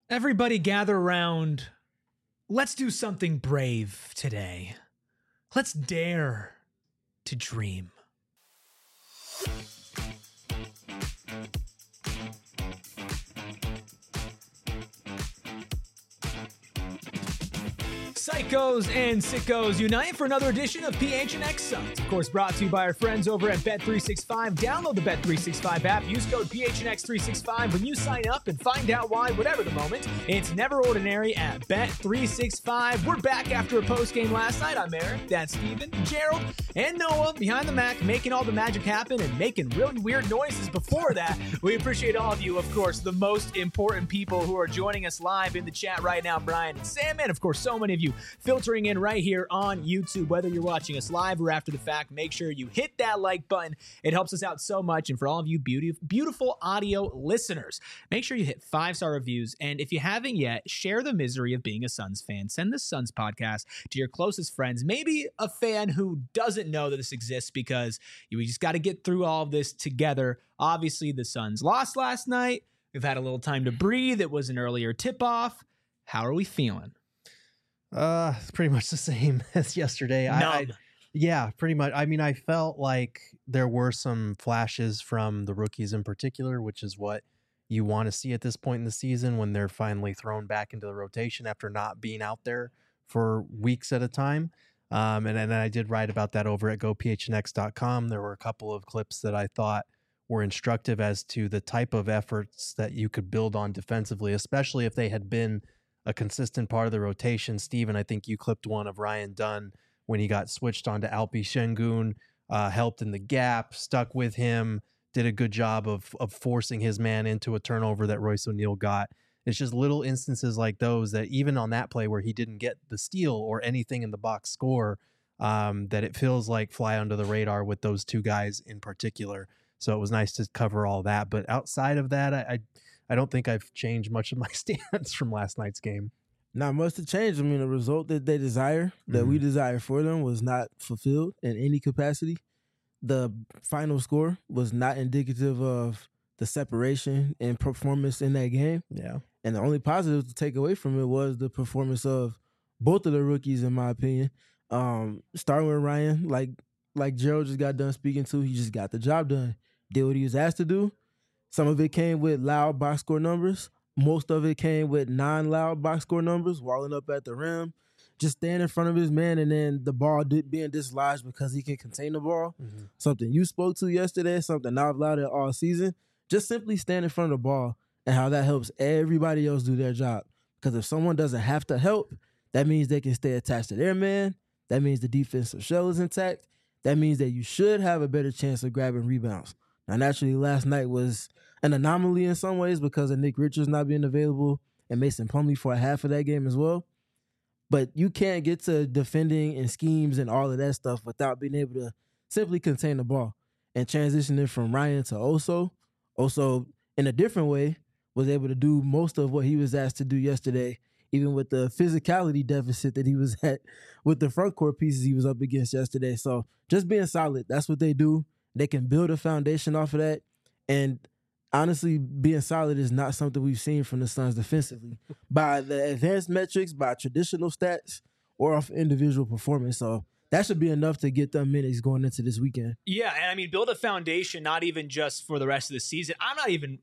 Everybody gather around. Let's do something brave today. Let's dare to dream. Psychos and sickos unite for another edition of PHNX Suns. Of course, brought to you by our friends over at Bet365. Download the Bet365 app. Use code PHNX365 when you sign up and find out why, whatever the moment, it's never ordinary at Bet365. We're back after a post-game last night. I'm Eric, that's Steven, Gerald, and Noah behind the Mac, making all the magic happen and making really weird noises before that. We appreciate all of you, of course, the most important people who are joining us live in the chat right now, Brian and Sam, and of course, so many of you filtering in right here on YouTube. Whether you're watching us live or after the fact, make sure you hit that like button. It helps us out so much. And for all of you beautiful audio listeners, make sure you hit 5-star reviews. And if you haven't yet, share the misery of being a Suns fan. Send the Suns podcast to your closest friends, maybe a fan who doesn't know that this exists, because we just got to get through all of this together. Obviously, the Suns lost last night. We've had a little time to breathe. It was an earlier tip-off. How are we feeling? Pretty much the same as yesterday. Yeah, pretty much. I mean, I felt like there were some flashes from the rookies in particular, which is what you want to see at this point in the season when they're finally thrown back into the rotation after not being out there for weeks at a time. And I did write about that over at gophnx.com. There were a couple of clips that I thought were instructive as to the type of efforts that you could build on defensively, especially if they had been a consistent part of the rotation. Steven, I think you clipped one of Ryan Dunn when he got switched onto Alpi Şengün, helped in the gap, stuck with him, did a good job of forcing his man into a turnover that Royce O'Neal got. It's just little instances like those that even on that play where he didn't get the steal or anything in the box score, that it feels like fly under the radar with those two guys in particular. So it was nice to cover all that. But outside of that, I don't think I've changed much of my stance from last night's game. Not much to change. I mean, the result that they desire, that we desire for them, was not fulfilled in any capacity. The final score was not indicative of the separation and performance in that game. Yeah. And the only positive to take away from it was the performance of both of the rookies, in my opinion. Starting with Ryan, like Gerald just got done speaking to, he just got the job done. Did what he was asked to do. Some of it came with loud box score numbers. Most of it came with non-loud box score numbers, walling up at the rim, just staying in front of his man, and then the ball being dislodged because he can contain the ball. Mm-hmm. Something you spoke to yesterday, something I've lauded all season. Just simply stand in front of the ball and how that helps everybody else do their job. Because if someone doesn't have to help, that means they can stay attached to their man. That means the defensive shell is intact. That means that you should have a better chance of grabbing rebounds. Now, naturally, last night was an anomaly in some ways because of Nick Richards not being available and Mason Plumlee for a half of that game as well. But you can't get to defending and schemes and all of that stuff without being able to simply contain the ball. And transitioning from Ryan to Oso in a different way was able to do most of what he was asked to do yesterday, even with the physicality deficit that he was at with the front court pieces he was up against yesterday. So just being solid, that's what they do. They can build a foundation off of that. And honestly, being solid is not something we've seen from the Suns defensively by the advanced metrics, by traditional stats, or off individual performance. So that should be enough to get them minutes going into this weekend. Yeah, and I mean, build a foundation, not even just for the rest of the season. I'm not even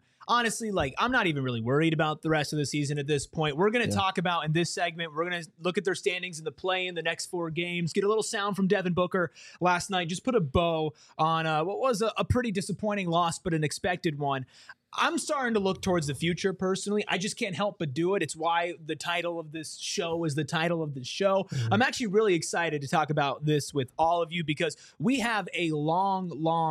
really worried about the rest of the season at this point. We're going to talk about in this segment, we're going to look at their standings in the play in the next 4 games, get a little sound from Devin Booker last night, just put a bow on what was a pretty disappointing loss, but an expected one. I'm starting to look towards the future personally. I just can't help but do it. It's why the title of this show is the title of the show. Mm-hmm. I'm actually really excited to talk about this with all of you because we have a long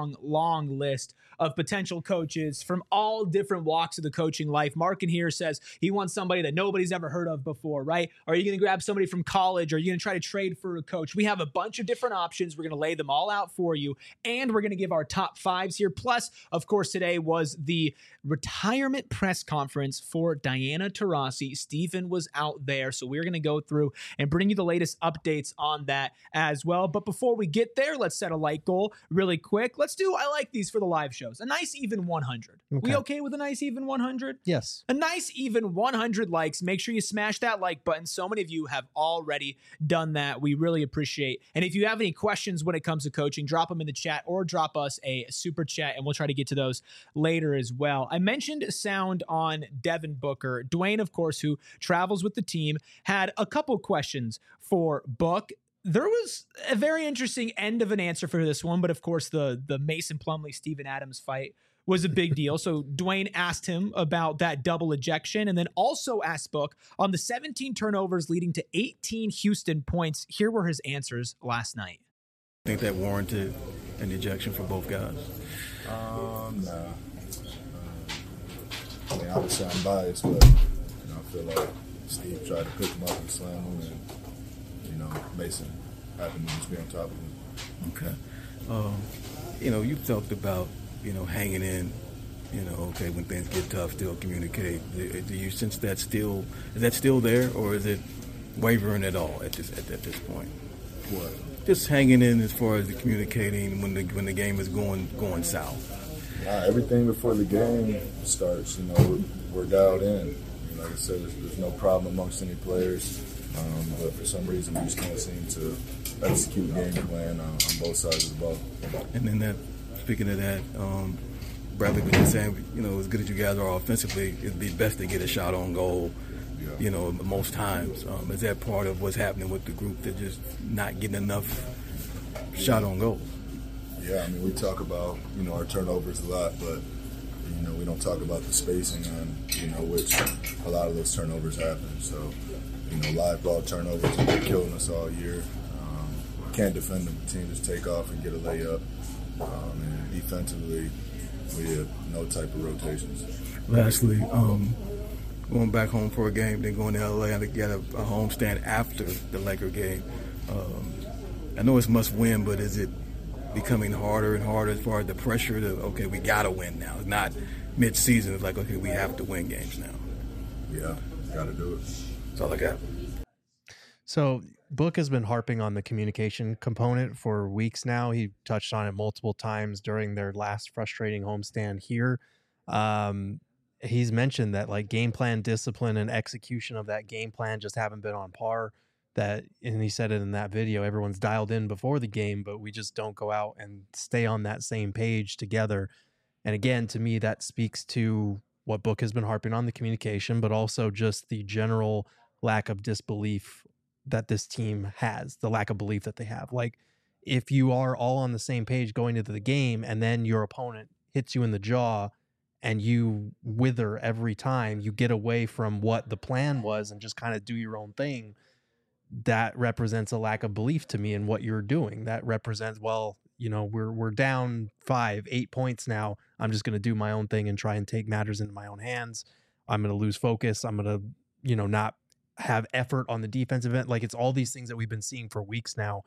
list of potential coaches from all different walks of the coaching life. Mark in here says he wants somebody that nobody's ever heard of before, right? Are you going to grab somebody from college? Are you going to try to trade for a coach? We have a bunch of different options. We're going to lay them all out for you, and we're going to give our top 5s here. Plus, of course, today was the retirement press conference for Diana Taurasi. Stephen was out there, so we're going to go through and bring you the latest updates on that as well. But before we get there, let's set a like goal really quick. Let's do I like these for the live show. shows. A nice even 100. Okay. We okay with a nice even 100? Yes. A nice even 100 likes. Make sure you smash that like button. So many of you have already done that. We really appreciate. And if you have any questions when it comes to coaching, drop them in the chat or drop us a super chat, and we'll try to get to those later as well. I mentioned sound on Devin Booker. Dwayne, of course, who travels with the team, had a couple questions for Book. There was a very interesting end of an answer for this one, but of course the Mason Plumlee, Steven Adams fight was a big deal. So Dwayne asked him about that double ejection, and then also asked Book on the 17 turnovers leading to 18 Houston points. Here were his answers last night. I think that warranted an ejection for both guys. Nah. I mean, obviously I'm biased, but I feel like Steve tried to pick him up and slam him, and Mason happened to just be on top of him. Okay. You talked about, hanging in, okay, when things get tough, still communicate. Do you sense is that still there, or is it wavering at all at this point? What? Just hanging in as far as the communicating when the game is going south. Everything before the game starts, we're dialed in. Like I said, there's no problem amongst any players. But for some reason, we just can't seem to execute game plan on both sides of the ball. And then speaking of that, Bradley was just saying, as good as you guys are offensively, it'd be best to get a shot on goal, most times. Is that part of what's happening with the group? They're just not getting enough shot on goal? Yeah, we talk about, our turnovers a lot, but, we don't talk about the spacing on, which a lot of those turnovers happen. So, live ball turnovers have been killing us all year. Can't defend them. The team just take off and get a layup. And defensively, we have no type of rotations. Lastly, going back home for a game, then going to LA and get a homestand after the Laker game. I know it's must win, but is it becoming harder and harder as far as the pressure to, okay, we got to win now? It's not mid-season. It's like, okay, we have to win games now. Yeah, got to do it. That's all I got. So Book has been harping on the communication component for weeks now. He touched on it multiple times during their last frustrating homestand here. He's mentioned that like game plan discipline and execution of that game plan just haven't been on par. And he said it in that video, everyone's dialed in before the game, but we just don't go out and stay on that same page together. And again, to me, that speaks to what Book has been harping on, the communication, but also just the general lack of disbelief that this team has, the lack of belief that they have. Like, if you are all on the same page going into the game and then your opponent hits you in the jaw and you wither every time, you get away from what the plan was and just kind of do your own thing, that represents a lack of belief to me in what you're doing. That represents, well, we're down 5-8 points now. I'm just going to do my own thing and try and take matters into my own hands. I'm going to lose focus. I'm going to, not have effort on the defensive end. Like, it's all these things that we've been seeing for weeks now.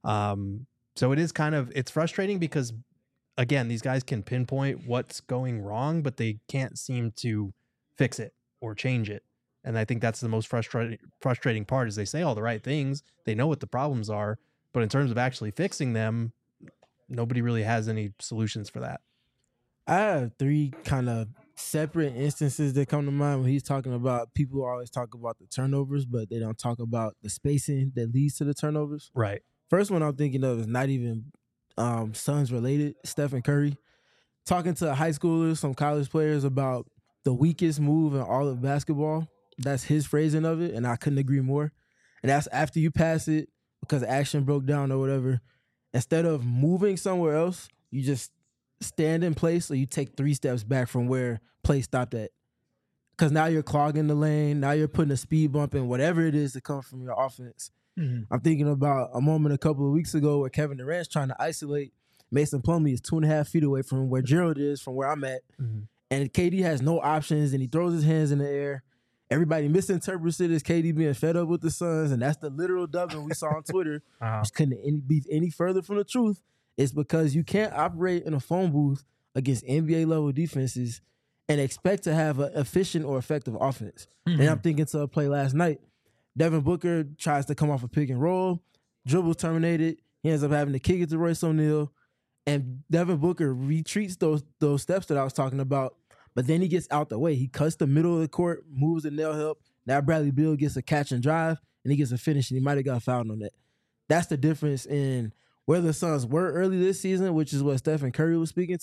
So it is it's frustrating because, again, these guys can pinpoint what's going wrong, but they can't seem to fix it or change it. And I think that's the most frustrating part is they say all the right things. They know what the problems are, but in terms of actually fixing them, nobody really has any solutions for that. I have three kind of separate instances that come to mind when he's talking about, people always talk about the turnovers, but they don't talk about the spacing that leads to the turnovers. Right. First one I'm thinking of is not even Suns related. Stephen Curry talking to high schoolers, some college players about the weakest move in all of basketball. That's his phrasing of it, and I couldn't agree more. And that's after you pass it because action broke down or whatever. Instead of moving somewhere else, you just stand in place or you take 3 steps back from where play stopped at. Because now you're clogging the lane. Now you're putting a speed bump in whatever it is that comes from your offense. Mm-hmm. I'm thinking about a moment a couple of weeks ago where Kevin Durant's trying to isolate Mason Plumlee is 2.5 feet away from where Gerald is, from where I'm at. Mm-hmm. And KD has no options and he throws his hands in the air. Everybody misinterprets it as KD being fed up with the Suns, and that's the literal dubbing we saw on Twitter, which couldn't be any further from the truth. It's because you can't operate in a phone booth against NBA-level defenses and expect to have an efficient or effective offense. Mm-hmm. And I'm thinking to a play last night. Devin Booker tries to come off a pick and roll, dribbles terminated. He ends up having to kick it to Royce O'Neal. And Devin Booker retreats those steps that I was talking about, but then he gets out the way. He cuts the middle of the court, moves the nail help. Now Bradley Beal gets a catch and drive, and he gets a finish, and he might have got fouled on that. That's the difference in where the Suns were early this season, which is what Stephen Curry was speaking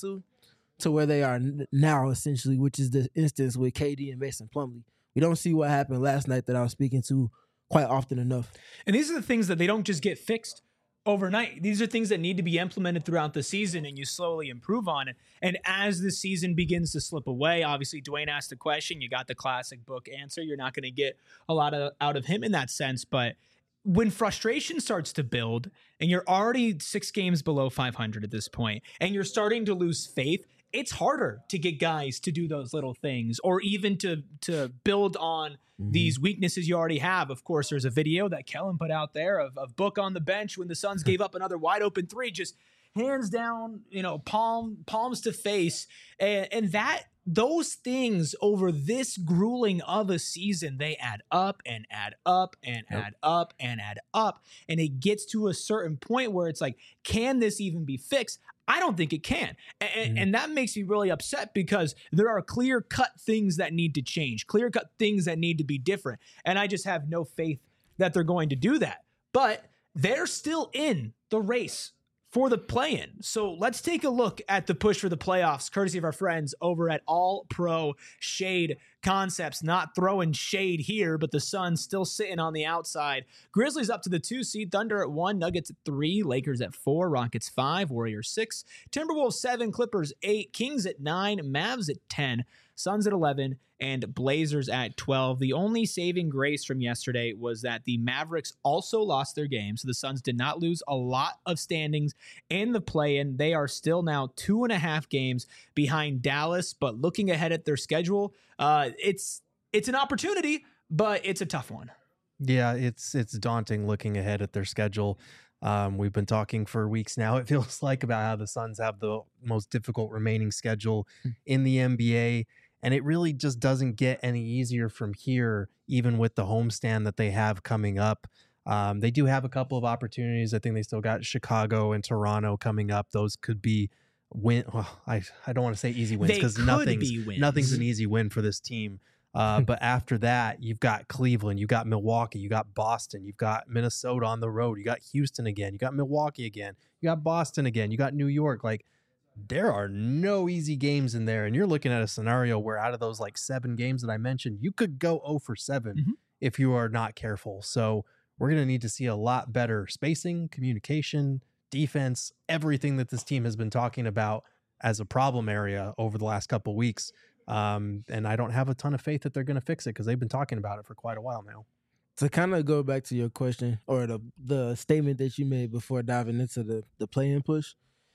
to where they are now, essentially, which is the instance with KD and Mason Plumlee. We don't see what happened last night that I was speaking to quite often enough. And these are the things that they don't just get fixed overnight. These are things that need to be implemented throughout the season, and you slowly improve on it. And as the season begins to slip away, obviously Dwayne asked the question. You got the classic book answer. You're not going to get a lot out of him in that sense. But when frustration starts to build and you're already 6 games below 500 at this point, and you're starting to lose faith, it's harder to get guys to do those little things or even to build on these weaknesses you already have. Of course, there's a video that Kellen put out there of Book on the bench when the Suns gave up another wide open 3, just hands down, palms to face. And that those things over this grueling of a season, they add up and add up and add up and add up. And it gets to a certain point where it's like, can this even be fixed? I don't think it can. And that makes me really upset because there are clear-cut things that need to change, clear-cut things that need to be different. And I just have no faith that they're going to do that. But they're still in the race for the play-in. So let's take a look at the push for the playoffs, courtesy of our friends over at All Pro Shade Concepts. Not throwing shade here, but the Suns still sitting on the outside. Grizzlies up to the 2 seed, Thunder at 1, Nuggets at 3, Lakers at 4, Rockets 5, Warriors 6, Timberwolves 7, Clippers 8, Kings at 9, Mavs at 10, Suns at 11, and Blazers at 12. The only saving grace from yesterday was that the Mavericks also lost their game, so the Suns did not lose a lot of standings in the play-in. They are still now 2.5 games behind Dallas, but looking ahead at their schedule, it's an opportunity, but it's a tough one. Yeah, it's daunting looking ahead at their schedule. We've been talking for weeks now, it feels like, about how the Suns have the most difficult remaining schedule in the NBA. And it really just doesn't get any easier from here, even with the homestand that they have coming up. They do have a couple of opportunities. I think they still got Chicago and Toronto coming up. Those could be I don't want to say easy wins because nothing's an easy win for this team. But after that, you've got Cleveland, you've got Milwaukee, you got Boston, you've got Minnesota on the road, you got Houston again, you got Milwaukee again, you got Boston again, you got New York. Like, there are no easy games in there. And you're looking at a scenario where out of those 7 games that I mentioned, you could go 0 for 7 if you are not careful. So we're going to need to see a lot better spacing, communication, defense, everything that this team has been talking about as a problem area over the last couple of weeks. And I don't have a ton of faith that they're going to fix it because they've been talking about it for quite a while now. To kind of go back to your question or the statement that you made before diving into the play-in push,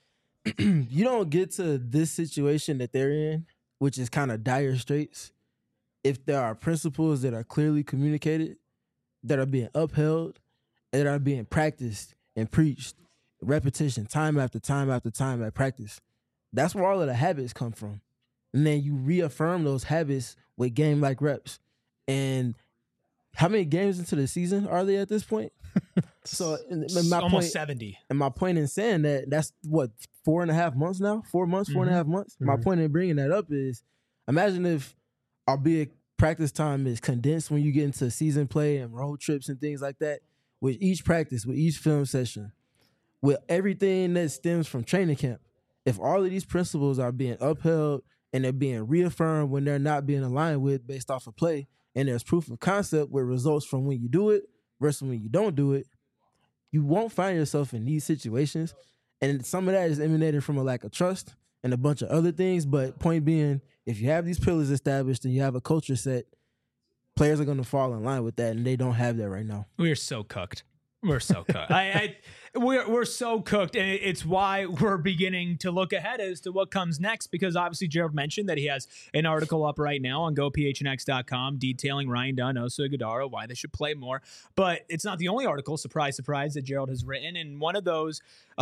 you don't get to this situation that they're in, which is kind of dire straits, if there are principles that are clearly communicated, that are being upheld, and that are being practiced and preached, repetition, time after time after time at practice. That's where all of the habits come from. And then you reaffirm those habits with game-like reps. And how many games into the season are they at this point? So almost 70. And my point in saying that, that's what, 4.5 months now? 4 months, 4.5 months? My point in bringing that up is, imagine if, albeit practice time is condensed when you get into season play and road trips and things like that, with each practice, with each film session, with everything that stems from training camp. If all of these principles are being upheld and they're being reaffirmed when they're not being aligned with based off of play, and there's proof of concept with results from when you do it versus when you don't do it, you won't find yourself in these situations. And some of that is emanating from a lack of trust and a bunch of other things. But point being, if you have these pillars established and you have a culture set, players are going to fall in line with that, and they don't have that right now. We are so cooked. We're so cooked. We're so cooked, and it's why we're beginning to look ahead as to what comes next, because obviously Gerald mentioned that he has an article up right now on GoPHNX.com detailing Ryan Dunn, Oso Ighodaro, why they should play more. But it's not the only article, surprise, surprise, that Gerald has written, and one of those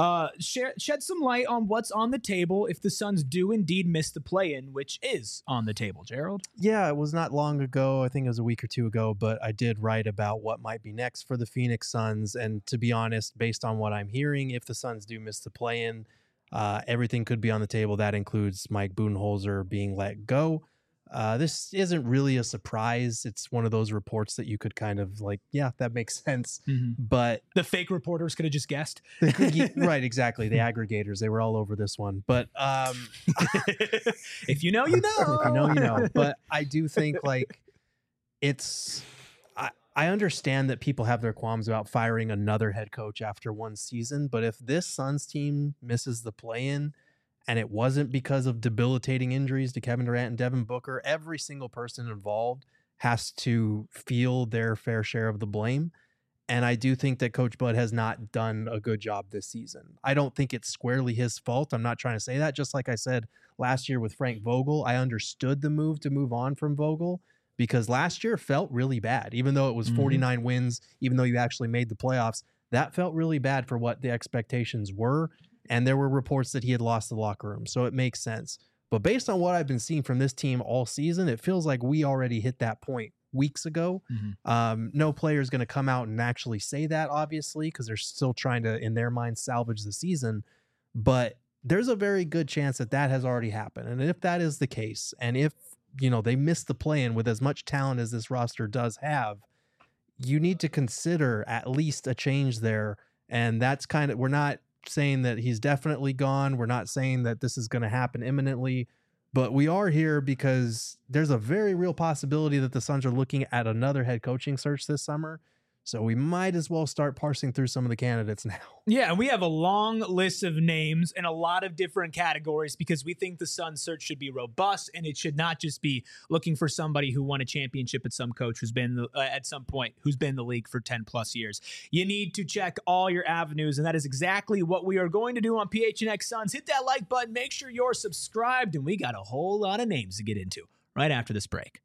shed some light on what's on the table if the Suns do indeed miss the play-in, which is on the table. Gerald? Yeah, it was not long ago. I think it was a week or two ago, but I did write about what might be next for the Phoenix Suns. And to be honest, based on what I'm hearing, if the Suns do miss the play-in, Everything could be on the table. That includes Mike Budenholzer being let go. This isn't really a surprise. It's one of those reports that you could kind of like, yeah, that makes sense. But the fake reporters could have just guessed. Right, exactly. The aggregators, they were all over this one. But if you know, you know. If you know, you know. But I do think like I understand that people have their qualms about firing another head coach after one season, but if this Suns team misses the play-in and it wasn't because of debilitating injuries to Kevin Durant and Devin Booker, every single person involved has to feel their fair share of the blame. And I do think that Coach Bud has not done a good job this season. I don't think it's squarely his fault. I'm not trying to say that. Just like I said last year with Frank Vogel, I understood the move to move on from Vogel, because last year felt really bad. Even though it was 49 wins, even though you actually made the playoffs, that felt really bad for what the expectations were. And there were reports that he had lost the locker room. So it makes sense. But based on what I've been seeing from this team all season, it feels like we already hit that point weeks ago. No player is going to come out and actually say that, obviously, because they're still trying to, in their mind, salvage the season. But there's a very good chance that that has already happened. And if that is the case, and if they missed the play-in with as much talent as this roster does have, you need to consider at least a change there. And that's we're not saying that he's definitely gone. We're not saying that this is going to happen imminently, but we are here because there's a very real possibility that the Suns are looking at another head coaching search this summer. So we might as well start parsing through some of the candidates now. Yeah, and we have a long list of names in a lot of different categories because we think the Suns search should be robust, and it should not just be looking for somebody who won a championship at some coach who's been at some point who's been in the league for 10 plus years. You need to check all your avenues, and that is exactly what we are going to do on PHNX Suns. Hit that like button, make sure you're subscribed, and we got a whole lot of names to get into right after this break.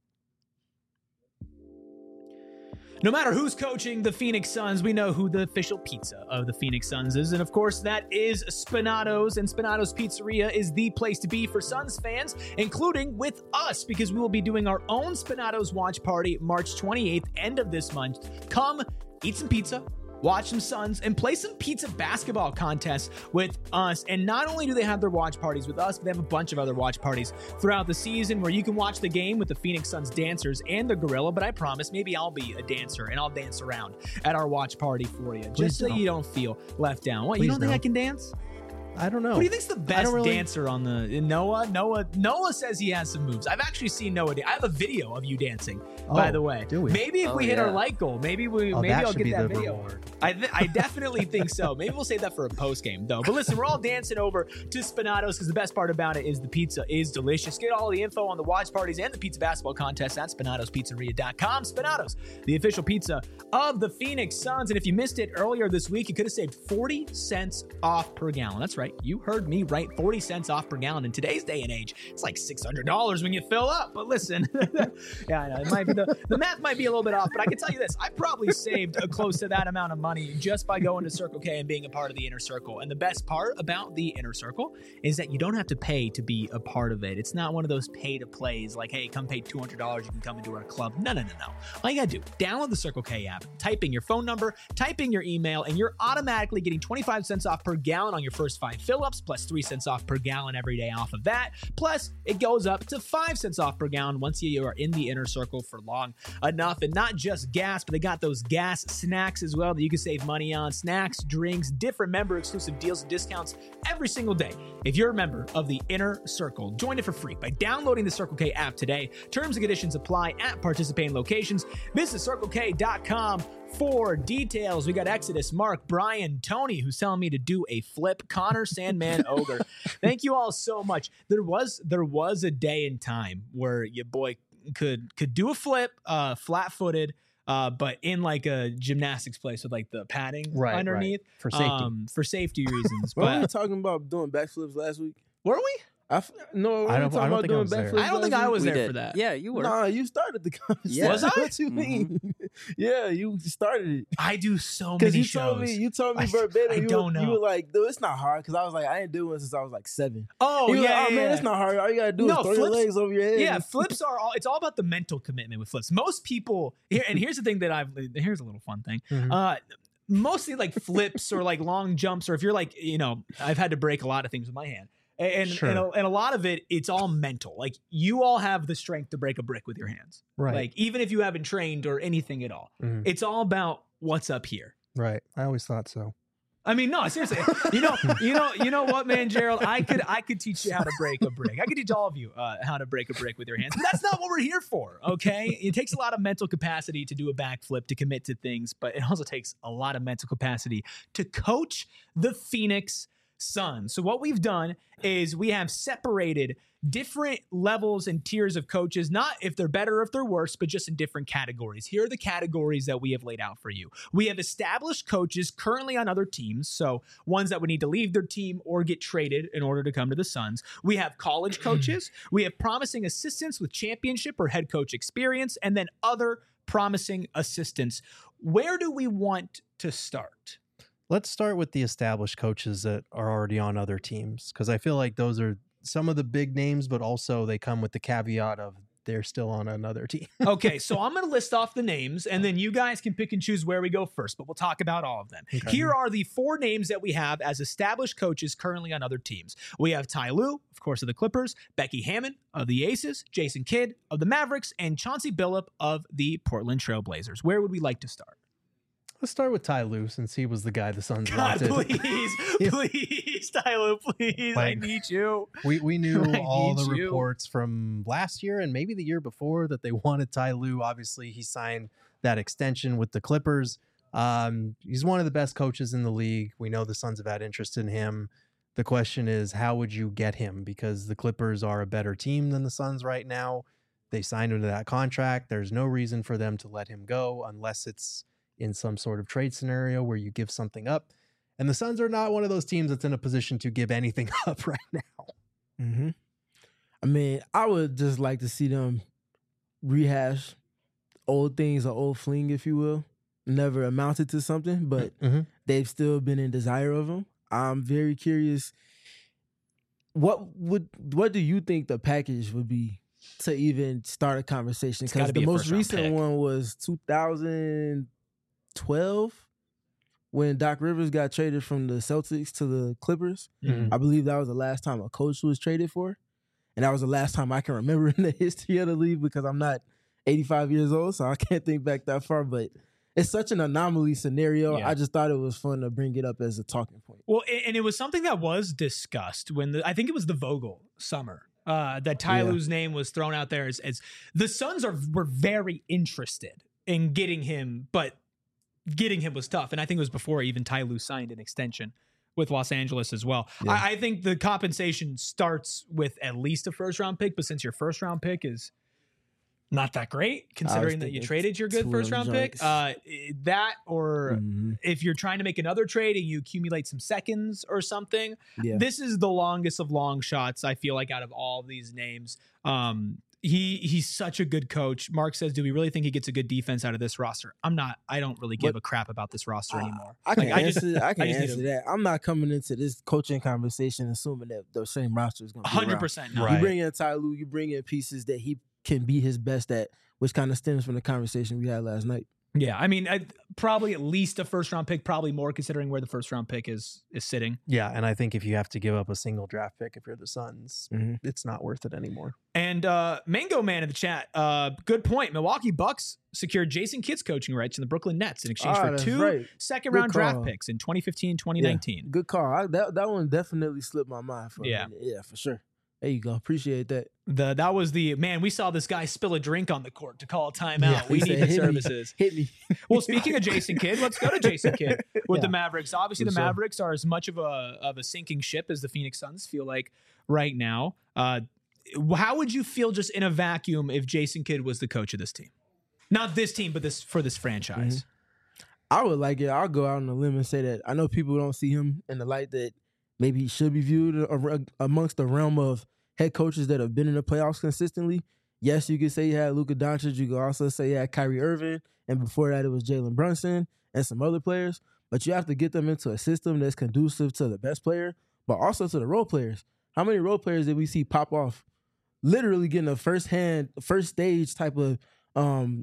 No matter who's coaching the Phoenix Suns, we know who the official pizza of the Phoenix Suns is. And of course, that is Spinato's. And Spinato's Pizzeria is the place to be for Suns fans, including with us, because we will be doing our own Spinato's watch party March 28th, end of this month. Come eat some pizza, watch some Suns, and play some pizza basketball contests with us. And not only do they have their watch parties with us, but they have a bunch of other watch parties throughout the season where you can watch the game with the Phoenix Suns dancers and the gorilla. But I promise, maybe I'll be a dancer and I'll dance around at our watch party for you, just so you don't feel left down. What, you don't think I can dance? I don't know. Who do you think's the best dancer on the Noah? Noah says he has some moves. I've actually seen Noah. I have a video of you dancing, by the way. Do we? Maybe if we hit our like goal, maybe I'll get that video. Reward. I definitely think so. Maybe we'll save that for a post game though. But listen, we're all dancing over to Spinato's because the best part about it is the pizza is delicious. Get all the info on the watch parties and the pizza basketball contest at SpinatosPizzeria.com. Spinato's, the official pizza of the Phoenix Suns. And if you missed it earlier this week, you could have saved 40 cents off per gallon. That's right. You heard me right. 40 cents off per gallon. In today's day and age, it's like $600 when you fill up. But listen, yeah, I know it might be the math might be a little bit off, but I can tell you this: I probably saved close to that amount of money just by going to Circle K and being a part of the Inner Circle. And the best part about the Inner Circle is that you don't have to pay to be a part of it. It's not one of those pay to plays like, hey, come pay $200, you can come into our club. No. All you gotta do, download the Circle K app, type in your phone number, type in your email, and you're automatically getting 25 cents off per gallon on your first 5 fill-ups, plus 3 cents off per gallon every day off of that. Plus, it goes up to 5 cents off per gallon once you are in the Inner Circle for long enough. And not just gas, but they got those gas snacks as well that you can save money on. Snacks, drinks, different member-exclusive deals and discounts every single day. If you're a member of the Inner Circle, join it for free by downloading the Circle K app today. Terms and conditions apply at participating locations. Visit CircleK.com for details. We got Exodus, Mark, Brian, Tony, who's telling me to do a flip, Connor, Sandman, Ogre. Thank you all so much. There was a day and time where your boy could do a flip, flat-footed, but in like a gymnastics place with like the padding underneath. Right. For safety reasons. Were we talking about doing backflips last week? Were we? I don't think I was there. I don't think I was there for that. Yeah, you were. Nah, you started the conversation. Was I? What you mean? Yeah, you started it. I do so many shows. You told me verbatim. I don't know. You were like, dude, it's not hard. Because I was like, I ain't doing it since I was like 7. Oh, yeah. Man, it's not hard. All you got to do is throw your legs over your head. Yeah, flips are it's all about the mental commitment with flips. Most people, here's the thing that here's a little fun thing. mostly like flips or like long jumps, or if you're like, I've had to break a lot of things with my hand. And a lot of it's all mental. Like you all have the strength to break a brick with your hands. Right. Like even if you haven't trained or anything at all, it's all about what's up here. Right. I always thought so. I mean, no, seriously. You know what, man, Gerald? I could teach you how to break a brick. I could teach all of you how to break a brick with your hands. But that's not what we're here for, okay? It takes a lot of mental capacity to do a backflip, to commit to things, but it also takes a lot of mental capacity to coach the Phoenix Suns. So what we've done is we have separated different levels and tiers of coaches, not if they're better or if they're worse, but just in different categories. Here are the categories that we have laid out for you. We have established coaches currently on other teams, so ones that would need to leave their team or get traded in order to come to the Suns. We have college coaches. We have promising assistants with championship or head coach experience, and then other promising assistants. Where do we want to start? Let's start with the established coaches that are already on other teams, because I feel like those are some of the big names, but also they come with the caveat of they're still on another team. Okay, so I'm going to list off the names, and then you guys can pick and choose where we go first, but we'll talk about all of them. Okay. Here are the 4 names that we have as established coaches currently on other teams. We have Ty Lue, of course, of the Clippers, Becky Hammon of the Aces, Jason Kidd of the Mavericks, and Chauncey Billup of the Portland Trail Blazers. Where would we like to start? Let's start with Ty Lue, since he was the guy the Suns wanted. Please, please, Ty Lue, please. Like, I need you. We knew all the reports from last year and maybe the year before that they wanted Ty Lue. Obviously, he signed that extension with the Clippers. He's one of the best coaches in the league. We know the Suns have had interest in him. The question is, how would you get him? Because the Clippers are a better team than the Suns right now. They signed him to that contract. There's no reason for them to let him go unless it's in some sort of trade scenario where you give something up. And the Suns are not one of those teams that's in a position to give anything up right now. Mm-hmm. I mean, I would just like to see them rehash old things or old fling, if you will. Never amounted to something, but they've still been in desire of them. I'm very curious. What do you think the package would be to even start a conversation? Because the most recent one was 2012 when Doc Rivers got traded from the Celtics to the Clippers. I believe that was the last time a coach was traded for. And that was the last time I can remember in the history of the league, because I'm not 85 years old, so I can't think back that far. But it's such an anomaly scenario. Yeah. I just thought it was fun to bring it up as a talking point. Well, and it was something that was discussed when I think it was the Vogel summer. That Ty Lue's name was thrown out there as the Suns were very interested in getting him, but getting him was tough. And I think it was before even Ty Lue signed an extension with Los Angeles as well. Yeah. I think the compensation starts with at least a first-round pick, but since your first-round pick is not that great, considering that you traded your good first-round pick, that or if you're trying to make another trade and you accumulate some seconds or something, this is the longest of long shots, I feel like, out of all these names. He's such a good coach. Mark says, do we really think he gets a good defense out of this roster? I don't really give a crap about this roster anymore. I can answer that. I'm not coming into this coaching conversation assuming that the same roster is going to be 100%. No. You bring in Ty Lue, you bring in pieces that he can be his best at, which kind of stems from the conversation we had last night. Yeah, I mean, probably at least a first-round pick, probably more considering where the first-round pick is sitting. Yeah, and I think if you have to give up a single draft pick if you're the Suns, it's not worth it anymore. And Mango Man in the chat, good point. Milwaukee Bucks secured Jason Kidd's coaching rights in the Brooklyn Nets in exchange for 2 second-round draft picks in 2015, 2019. Yeah, good call. That one definitely slipped my mind for a minute. Yeah, for sure. There you go. Appreciate that. That was we saw this guy spill a drink on the court to call a timeout. Yeah, we need the services. Hit me. Well, speaking of Jason Kidd, let's go to Jason Kidd with the Mavericks. Obviously, the Mavericks are as much of a sinking ship as the Phoenix Suns feel like right now. How would you feel just in a vacuum if Jason Kidd was the coach of this team? Not this team, but for this franchise. I would like it. I'll go out on a limb and say that I know people don't see him in the light that maybe he should be viewed amongst the realm of head coaches that have been in the playoffs consistently. Yes, you could say you had Luka Doncic. You could also say you had Kyrie Irving. And before that, it was Jalen Brunson and some other players. But you have to get them into a system that's conducive to the best player, but also to the role players. How many role players did we see pop off? Literally getting a first stage type of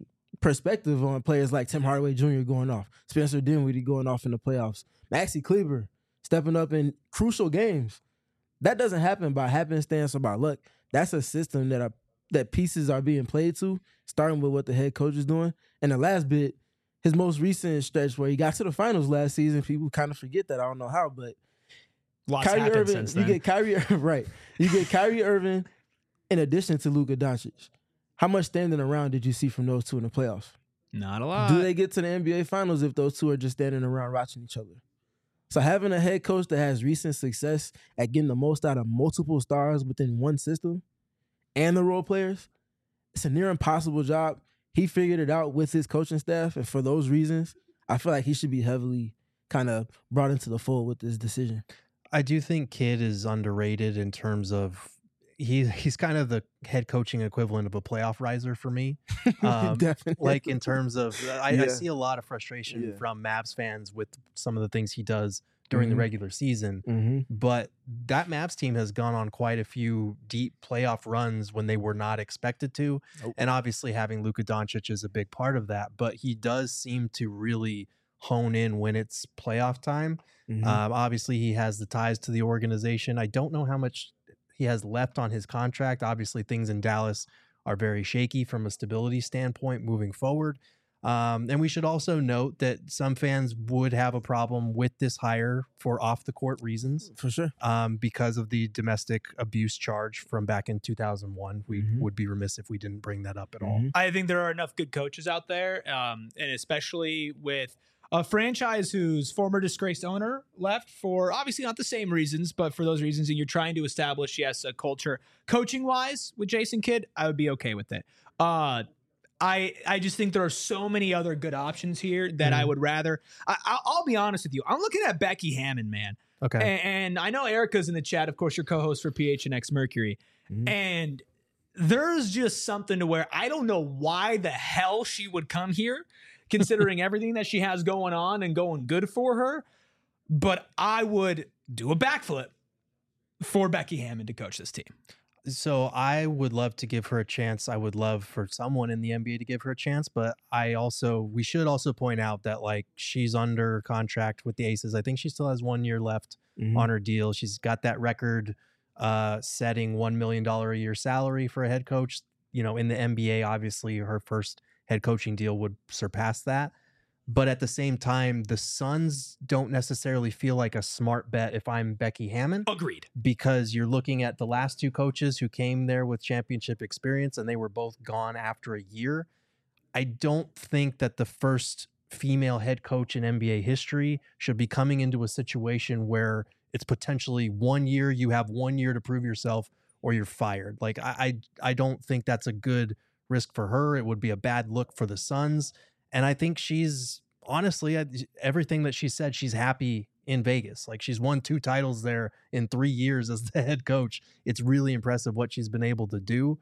perspective on players like Tim Hardaway Jr. going off, Spencer Dinwiddie going off in the playoffs, Maxi Kleber stepping up in crucial games. That doesn't happen by happenstance or by luck. That's a system that pieces are being played to, starting with what the head coach is doing. And the last bit, his most recent stretch where he got to the finals last season, people kind of forget that. I don't know how, but Lots Kyrie happened Irving, since then. you get Kyrie right. You get Kyrie Irving in addition to Luka Doncic. How much standing around did you see from those two in the playoffs? Not a lot. Do they get to the NBA Finals if those two are just standing around watching each other? So having a head coach that has recent success at getting the most out of multiple stars within one system and the role players, it's a near impossible job. He figured it out with his coaching staff, and for those reasons, I feel like he should be heavily kind of brought into the fold with this decision. I do think Kidd is underrated in terms of he's kind of the head coaching equivalent of a playoff riser for me. Definitely. Like in terms of, I see a lot of frustration from Mavs fans with some of the things he does during the regular season. But that Mavs team has gone on quite a few deep playoff runs when they were not expected to. And obviously having Luka Doncic is a big part of that. But he does seem to really hone in when it's playoff time. Obviously, he has the ties to the organization. I don't know how much he has left on his contract. Obviously, things in Dallas are very shaky from a stability standpoint moving forward. And we should also note that some fans would have a problem with this hire for off-the-court reasons. For sure. Because of the domestic abuse charge from back in 2001. We would be remiss if we didn't bring that up at all. I think there are enough good coaches out there, and especially with a franchise whose former disgraced owner left for obviously not the same reasons, but for those reasons, and you're trying to establish, yes, a culture coaching-wise with Jason Kidd, I would be okay with it. I just think there are so many other good options here that I would rather. I'll be honest with you. I'm looking at Becky Hammon, man. Okay. And I know Erica's in the chat, of course, your co-host for PHNX Mercury. And there's just something to where I don't know why the hell she would come here, considering everything that she has going on and going good for her. But I would do a backflip for Becky Hammon to coach this team. So I would love to give her a chance. I would love for someone in the NBA to give her a chance, but we should also point out that like she's under contract with the Aces. I think she still has 1 year left on her deal. She's got that record setting $1 million a year salary for a head coach. You know, in the NBA, obviously her first head coaching deal would surpass that. But at the same time, the Suns don't necessarily feel like a smart bet if I'm Becky Hammon. Agreed. Because you're looking at the last two coaches who came there with championship experience, and they were both gone after a year. I don't think that the first female head coach in NBA history should be coming into a situation where it's potentially 1 year, you have 1 year to prove yourself, or you're fired. Like, I don't think that's a good risk for her. It would be a bad look for the Suns. And I think she's honestly, everything that she said, she's happy in Vegas. Like she's won 2 titles there in 3 years as the head coach. It's really impressive what she's been able to do.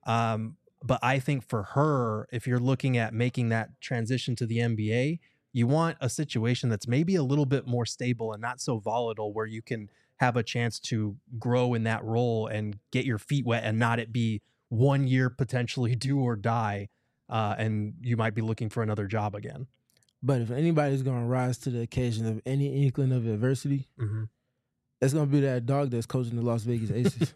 But I think for her, if you're looking at making that transition to the NBA, you want a situation that's maybe a little bit more stable and not so volatile, where you can have a chance to grow in that role and get your feet wet and not it be 1 year potentially do or die. And you might be looking for another job again. But if anybody's going to rise to the occasion of any inkling of adversity, it's going to be that dog that's coaching the Las Vegas Aces.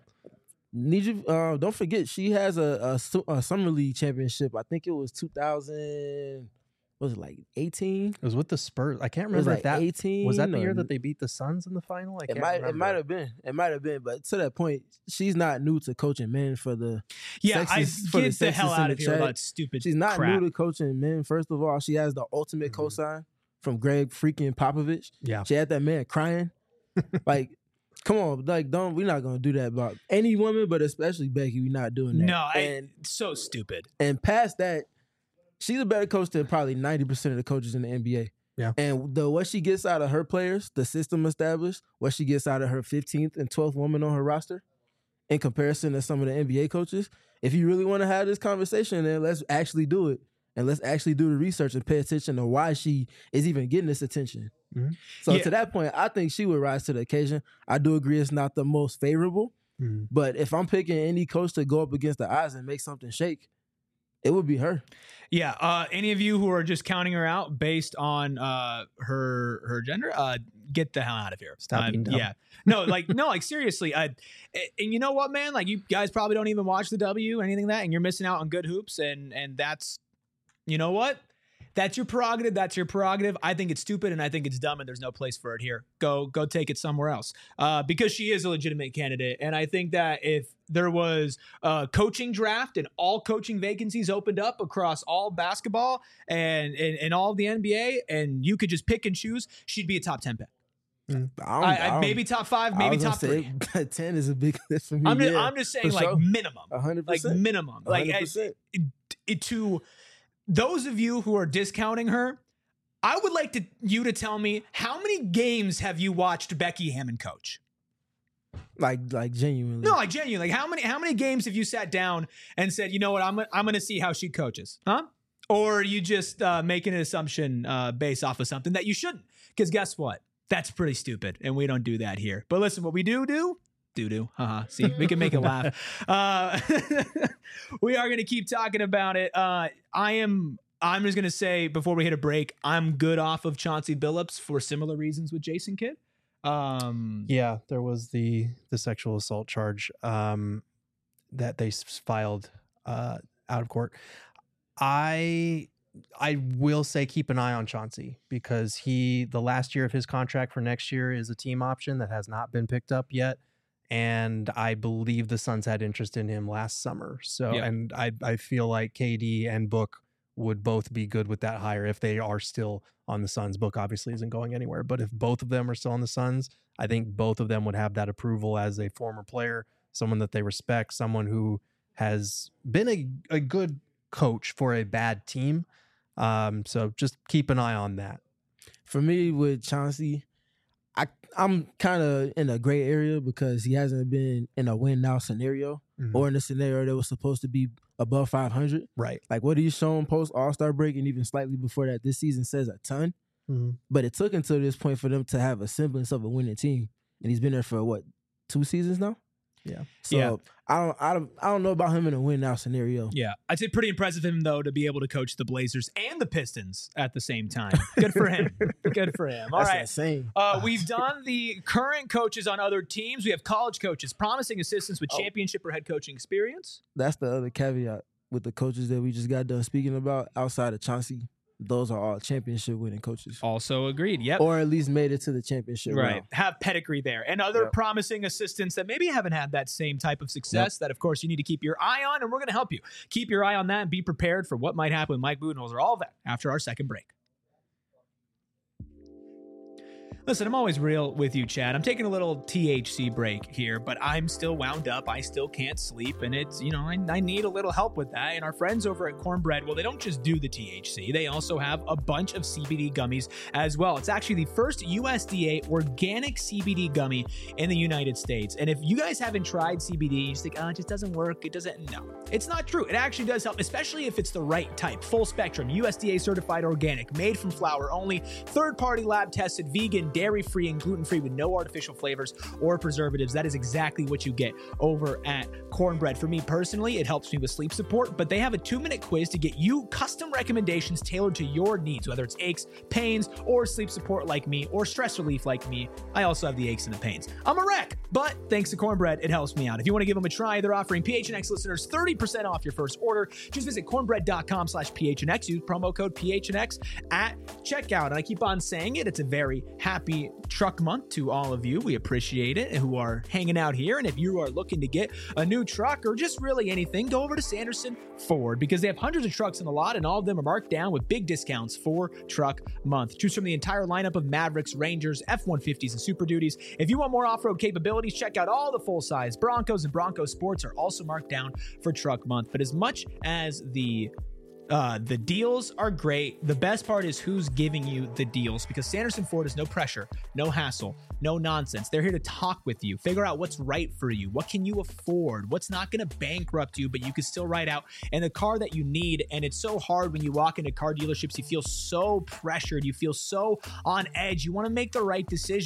Need you? Don't forget, she has a summer league championship. I think it was 2000. Was it like 18? It was with the Spurs. I can't remember like if that 18 was that the year that they beat the Suns in the final. It might have been. It might have been. But to that point, she's not new to coaching men for the. Yeah, sexist, I get the hell out of here about stupid. She's not crap. new to coaching men. First of all, she has the ultimate cosign from Greg freaking Popovich. Yeah, she had that man crying. Like, come on, like we're not gonna do that about any woman, but especially Becky. We're not doing that. No, so stupid. And past that, she's a better coach than probably 90% of the coaches in the NBA. Yeah. And what she gets out of her players, the system established, what she gets out of her 15th and 12th woman on her roster, in comparison to some of the NBA coaches, if you really want to have this conversation, then let's actually do it. And let's actually do the research and pay attention to why she is even getting this attention. So to that point, I think she would rise to the occasion. I do agree it's not the most favorable, but if I'm picking any coach to go up against the odds and make something shake, It would be her. Yeah. Any of you who are just counting her out based on her gender, get the hell out of here. Stop being dumb. Yeah. No, like seriously. And you know what, man? Like, you guys probably don't even watch the W, anything like that, and you're missing out on good hoops. And that's, you know what? That's your prerogative. That's your prerogative. I think it's stupid and I think it's dumb, and there's no place for it here. Go take it somewhere else. Because she is a legitimate candidate. And I think that if there was a coaching draft and all coaching vacancies opened up across all basketball and all of the NBA, and you could just pick and choose, she'd be a top 10 pick. Maybe top 5, maybe top 3. 10 is a big list for me. I'm just saying, like, sure. minimum. 100%. Like, minimum. 100%. Like, to those of you who are discounting her, I would like you to tell me, how many games have you watched Becky Hammon coach? Like genuinely. No, like genuinely. Like, how many games have you sat down and said, you know what, I'm going to see how she coaches, huh? Or are you just making an assumption based off of something that you shouldn't? Because guess what? That's pretty stupid, and we don't do that here. But listen, what we do. See, we can make it laugh. We are going to keep talking about it. I'm just going to say, before we hit a break, I'm good off of Chauncey Billups for similar reasons with Jason Kidd. Yeah, there was the sexual assault charge that they filed out of court. I will say keep an eye on Chauncey, because the last year of his contract for next year is a team option that has not been picked up yet. And I believe the Suns had interest in him last summer. So, yeah. And I feel like KD and Book would both be good with that hire if they are still on the Suns. Book obviously isn't going anywhere, but if both of them are still on the Suns, I think both of them would have that approval as a former player, someone that they respect, someone who has been a good coach for a bad team. So just keep an eye on that. For me, with Chauncey, I'm kind of in a gray area because he hasn't been in a win now scenario, or in a scenario that was supposed to be above 500. Right. Like, what he's shown post All-Star break and even slightly before that this season says a ton. But it took until this point for them to have a semblance of a winning team, and he's been there for what, 2 seasons now? Yeah. So yeah. I don't know about him in a win now scenario. Yeah. I'd say pretty impressive of him, though, to be able to coach the Blazers and the Pistons at the same time. Good for him. Good for him. All That's right. insane. We've done the current coaches on other teams. We have college coaches, promising assistants with championship or head coaching experience. That's the other caveat with the coaches that we just got done speaking about. Outside of Chauncey, those are all championship winning coaches. Also agreed. Yep. Or at least made it to the championship right round. Have pedigree there. And other promising assistants that maybe haven't had that same type of success that, of course, you need to keep your eye on, and we're going to help you keep your eye on that and be prepared for what might happen with Mike Budenholzer. All of that after our second break. Listen, I'm always real with you, Chad. I'm taking a little THC break here, but I'm still wound up. I still can't sleep, and it's, I need a little help with that. And our friends over at Cornbread, well, they don't just do the THC. They also have a bunch of CBD gummies as well. It's actually the first USDA organic CBD gummy in the United States. And if you guys haven't tried CBD, you just think, it just doesn't work. It doesn't. No, it's not true. It actually does help, especially if it's the right type. Full spectrum, USDA certified organic, made from flower only, third-party lab tested, vegan, dairy-free, and gluten-free with no artificial flavors or preservatives. That is exactly what you get over at Cornbread. For me personally, it helps me with sleep support, but they have a 2-minute quiz to get you custom recommendations tailored to your needs, whether it's aches, pains, or sleep support like me, or stress relief like me. I also have the aches and the pains. I'm a wreck, but thanks to Cornbread, it helps me out. If you want to give them a try, they're offering PHNX listeners 30% off your first order. Just visit cornbread.com/PHNX. Use promo code PHNX at checkout. And I keep on saying it. It's a very happy truck month to all of you. We appreciate it, who are hanging out here. And if you are looking to get a new truck or just really anything, go over to Sanderson Ford, because they have hundreds of trucks in the lot, and all of them are marked down with big discounts for truck month. Choose from the entire lineup of Mavericks, Rangers, F-150s, and Super Duties. If you want more off-road capabilities, check out all the full-size Broncos, and Bronco Sports are also marked down for truck month. But as much as the deals are great, the best part is who's giving you the deals, because Sanderson Ford is no pressure, no hassle, no nonsense. They're here to talk with you, figure out what's right for you, what can you afford, what's not going to bankrupt you, but you can still ride out in the car that you need. And it's so hard when you walk into car dealerships. You feel so pressured, you feel so on edge, you want to make the right decision.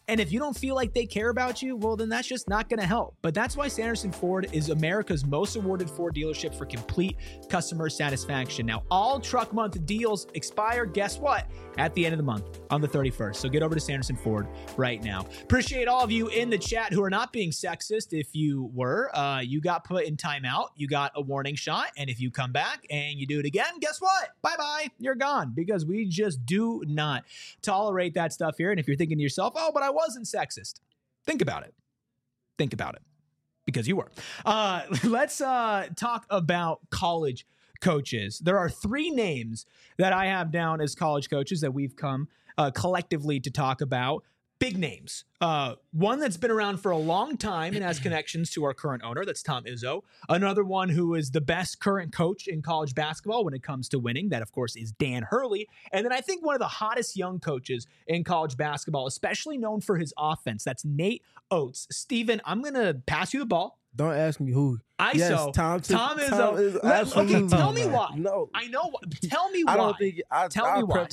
And if you don't feel like they care about you, well, then that's just not going to help. But that's why Sanderson Ford is America's most awarded Ford dealership for complete customer satisfaction. Now, all truck month deals expire, guess what? At the end of the month on the 31st. So get over to Sanderson Ford right now. Appreciate all of you in the chat who are not being sexist. If you were, you got put in timeout. You got a warning shot. And if you come back and you do it again, guess what? Bye-bye. You're gone, because we just do not tolerate that stuff here. And if you're thinking to yourself, oh, but I wasn't sexist, think about it. Think about it, because you were. Let's talk about college coaches. There are 3 names that I have down as college coaches that we've come collectively to talk about. Big names. One that's been around for a long time and has connections to our current owner. That's Tom Izzo. Another one who is the best current coach in college basketball when it comes to winning. That, of course, is Dan Hurley. And then I think one of the hottest young coaches in college basketball, especially known for his offense. That's Nate Oates. Steven, I'm going to pass you the ball. Don't ask me who. Tom Izzo. Okay, tell me why. No, I know. Tell me why. I don't think. Tell me why.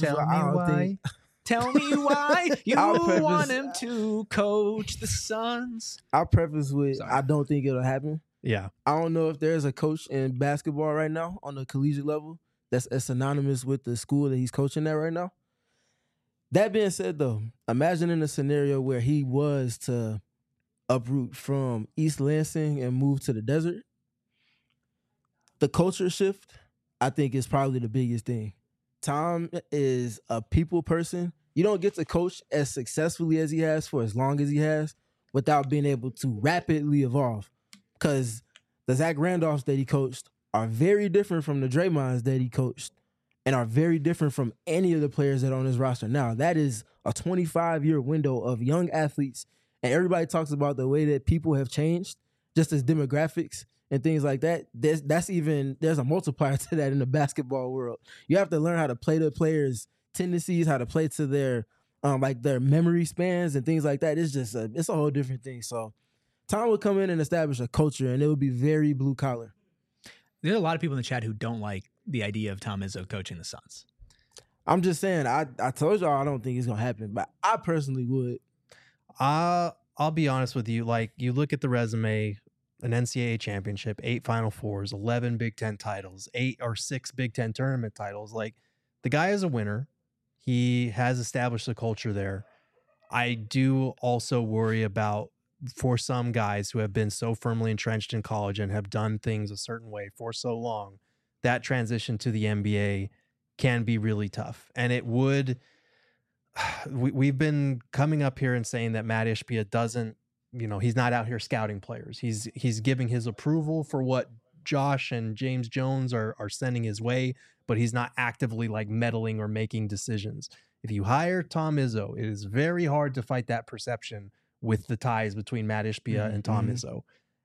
Tell me why you want him to coach the Suns. I'll preface with, I don't think it'll happen. Yeah. I don't know if there's a coach in basketball right now on the collegiate level that's as synonymous with the school that he's coaching at right now. That being said, though, imagine in a scenario where he was to uproot from East Lansing and move to the desert. The culture shift, I think, is probably the biggest thing. Tom is a people person. You don't get to coach as successfully as he has for as long as he has without being able to rapidly evolve. Because the Zach Randolphs that he coached are very different from the Draymonds that he coached and are very different from any of the players that are on his roster now. That is a 25-year window of young athletes. And everybody talks about the way that people have changed, just as demographics and things like that. There's a multiplier to that in the basketball world. You have to learn how to play the players' tendencies, how to play to their their memory spans and things like that. It's just it's a whole different thing. So Tom would come in and establish a culture, and it would be very blue collar. There are a lot of people in the chat who don't like the idea of Tom Izzo coaching the Suns. I'm just saying, I told y'all I don't think it's gonna happen, but I personally would. I'll be honest with you. Like, you look at the resume, an NCAA championship, 8 Final Fours, 11 Big Ten titles, 8 or 6 Big Ten tournament titles. Like, the guy is a winner. He has established a culture there. I do also worry about, for some guys who have been so firmly entrenched in college and have done things a certain way for so long, that transition to the NBA can be really tough. And it would... We've been coming up here and saying that Matt Ishbia doesn't, he's not out here scouting players. He's giving his approval for what Josh and James Jones are sending his way, but he's not actively like meddling or making decisions. If you hire Tom Izzo, it is very hard to fight that perception with the ties between Matt Ishbia and Tom Izzo.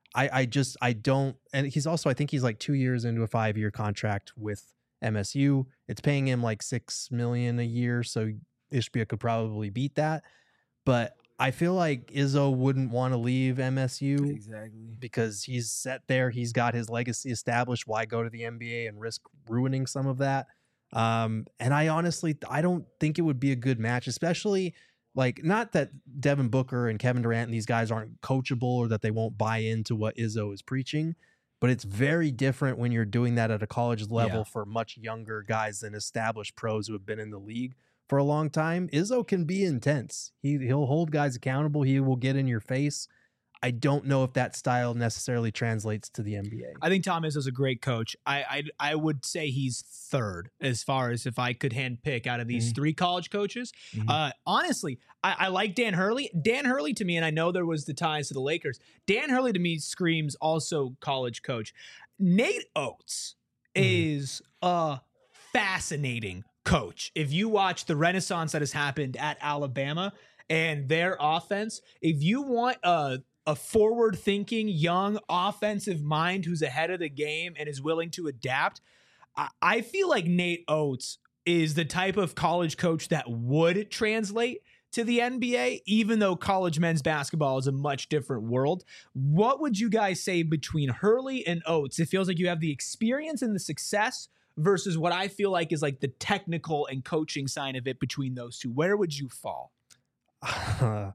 I don't, and he's also, I think he's like 2 years into a 5-year contract with MSU. It's paying him like $6 million a year, so Ishbia could probably beat that. But I feel like Izzo wouldn't want to leave MSU Exactly. because he's set there. He's got his legacy established. Why go to the NBA and risk ruining some of that? And I honestly, I don't think it would be a good match, especially like, not that Devin Booker and Kevin Durant and these guys aren't coachable or that they won't buy into what Izzo is preaching, but it's very different when you're doing that at a college level for much younger guys than established pros who have been in the league for a long time. Izzo can be intense. He'll hold guys accountable. He will get in your face. I don't know if that style necessarily translates to the NBA. I think Tom Izzo's a great coach. I would say he's third as far as if I could handpick out of these 3 college coaches. Honestly, I like Dan Hurley. Dan Hurley to me, and I know there was the ties to the Lakers, Dan Hurley to me screams also college coach. Nate Oates is a fascinating coach. If you watch the renaissance that has happened at Alabama and their offense, if you want a forward-thinking, young offensive mind who's ahead of the game and is willing to adapt, I feel like Nate Oates is the type of college coach that would translate to the NBA, even though college men's basketball is a much different world. What would you guys say between Hurley and Oates? It feels like you have the experience and the success versus what I feel like is like the technical and coaching side of it between those two. Where would you fall?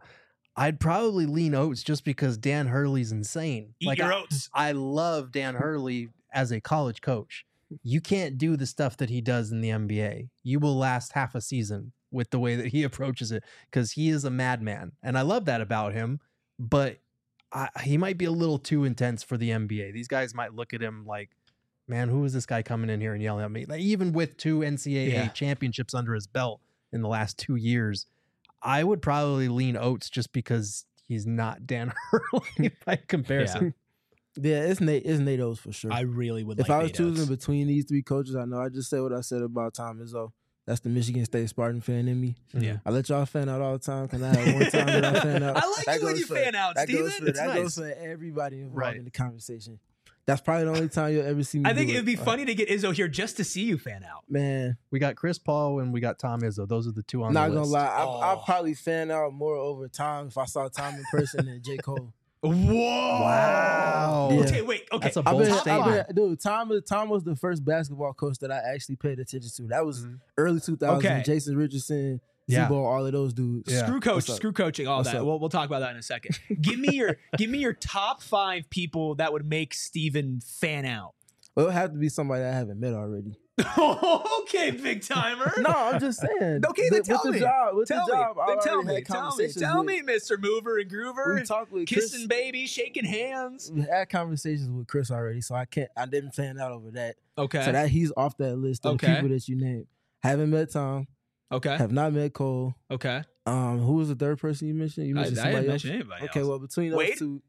I'd probably lean Oates just because Dan Hurley's insane. Eat your oats. I love Dan Hurley as a college coach. You can't do the stuff that he does in the NBA. You will last half a season with the way that he approaches it because he is a madman. And I love that about him, but he might be a little too intense for the NBA. These guys might look at him like, man, who is this guy coming in here and yelling at me? Like, even with 2 NCAA championships under his belt in the last 2 years, I would probably lean Oates just because he's not Dan Hurley by comparison. Yeah, it's Nate Oates for sure. I really would. If like I was Nate choosing Oates. between these 3 coaches, I know I just said what I said about Tom Izzo. That's the Michigan State Spartan fan in me. Yeah. I let y'all fan out all the time. Can I have one time that I fan out? I like you when you fan out, Steven. That goes for everybody involved in the conversation. That's probably the only time you'll ever see me. I think it'd be funny to get Izzo here just to see you fan out. Man, we got Chris Paul and we got Tom Izzo. Those are the 2 on the list. Not gonna lie, I'll probably fan out more over Tom if I saw Tom in person than J. Cole. Whoa! Wow. Yeah. Okay, wait. Okay, that's a bold statement. Dude, Tom was the first basketball coach that I actually paid attention to. That was early 2000s. Okay. Jason Richardson, Z-Bo, all of those dudes. Screw coaching, all What's that. up? We'll talk about that in a second. Give me your top 5 people that would make Steven fan out. Well, it would have to be somebody that I haven't met already. Okay, big timer. No, I'm just saying. Okay, then tell me. Tell me, Mr. Mover and Groover. We talked with kissing babies, shaking hands. We had conversations with Chris already, so I didn't fan out over that. Okay. So that he's off that list of the people that you named. Haven't met Tom. Okay. Have not met Cole. Okay. Who was the third person you mentioned? You mentioned I somebody didn't else? mention anybody Okay, else. well, between those Wade? 2,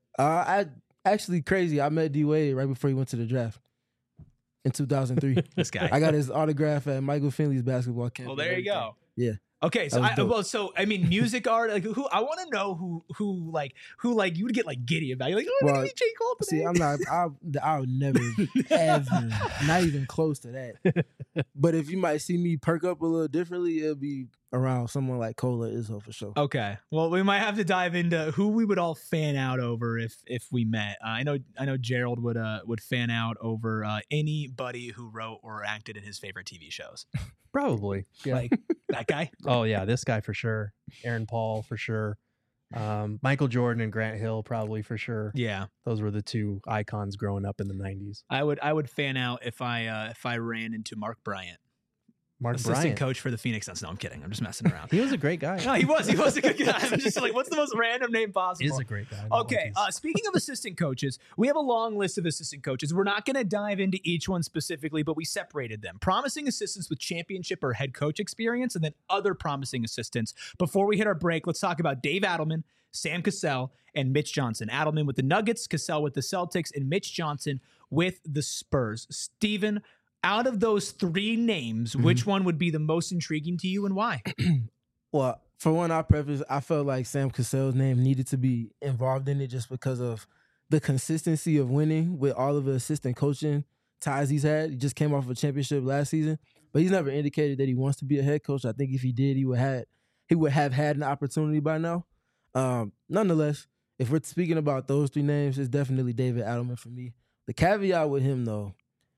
I actually crazy. I met D-Wade right before he went to the draft in 2003. This guy. I got his autograph at Michael Finley's basketball camp. Well, there you go. Yeah. Okay, so That was dope. music art, like who I want to know who you would get like giddy about. You're like, oh, I'm gonna meet J. Cole today. See, I'm not. I would never, ever, not even close to that. But if you might see me perk up a little differently, it'll be around someone like Cole or Izzo for sure. Okay, well, we might have to dive into who we would all fan out over if we met. I know Gerald would fan out over anybody who wrote or acted in his favorite TV shows. Probably. Yeah. Like that guy. Oh yeah, this guy for sure. Aaron Paul for sure. Michael Jordan and Grant Hill probably for sure. Yeah, those were the 2 icons growing up in the 90s. I would fan out if I ran into Mark Bryant. Assistant Bryant, coach for the Phoenix Suns. No, I'm kidding. I'm just messing around. He was a great guy. No, he was a good guy. I'm just like, what's the most random name possible? He is a great guy. Okay, speaking of assistant coaches, we have a long list of assistant coaches. We're not going to dive into each one specifically, but we separated them. Promising assistants with championship or head coach experience, and then other promising assistants. Before we hit our break, let's talk about Dave Adelman, Sam Cassell, and Mitch Johnson. Adelman with the Nuggets, Cassell with the Celtics, and Mitch Johnson with the Spurs. Steven, out of those 3 names, which one would be the most intriguing to you and why? Well, for one, I felt like Sam Cassell's name needed to be involved in it just because of the consistency of winning with all of the assistant coaching ties he's had. He just came off a championship last season, but he's never indicated that he wants to be a head coach. I think if he did, he would have had an opportunity by now. Nonetheless, if we're speaking about those 3 names, it's definitely David Adelman for me. The caveat with him, though,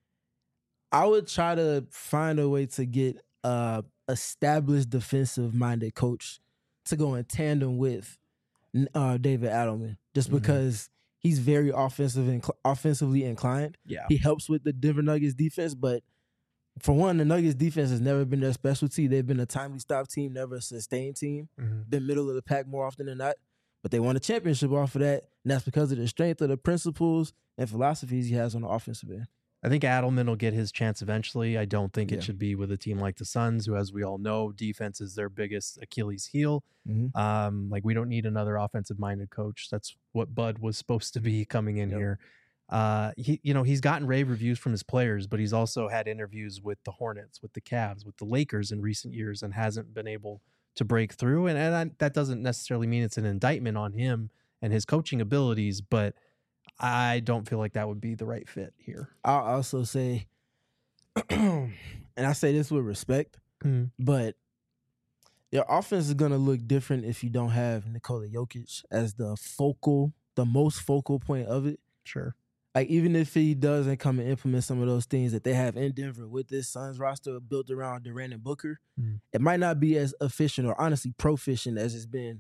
I would try to find a way to get established defensive-minded coach to go in tandem with David Adelman, just because he's very offensively inclined. Yeah. He helps with the Denver Nuggets defense, but for one, the Nuggets defense has never been their specialty. They've been a timely stop team, never a sustained team. Been middle of the pack more often than not. But they won a championship off of that, and that's because of the strength of the principles and philosophies he has on the offensive end. I think Adelman will get his chance eventually. I don't think it should be with a team like the Suns, who, as we all know, defense is their biggest Achilles heel. Like, we don't need another offensive-minded coach. That's what Bud was supposed to be coming in here. He's gotten rave reviews from his players, but he's also had interviews with the Hornets, with the Cavs, with the Lakers in recent years, and hasn't been able to break through. And that doesn't necessarily mean it's an indictment on him and his coaching abilities, but I don't feel like that would be the right fit here. I'll also say, and I say this with respect, but your offense is going to look different if you don't have Nikola Jokic as the most focal point of it. Sure. Like, even if he doesn't come and implement some of those things that they have in Denver with this Suns roster built around Durant and Booker, it might not be as efficient or honestly proficient as it's been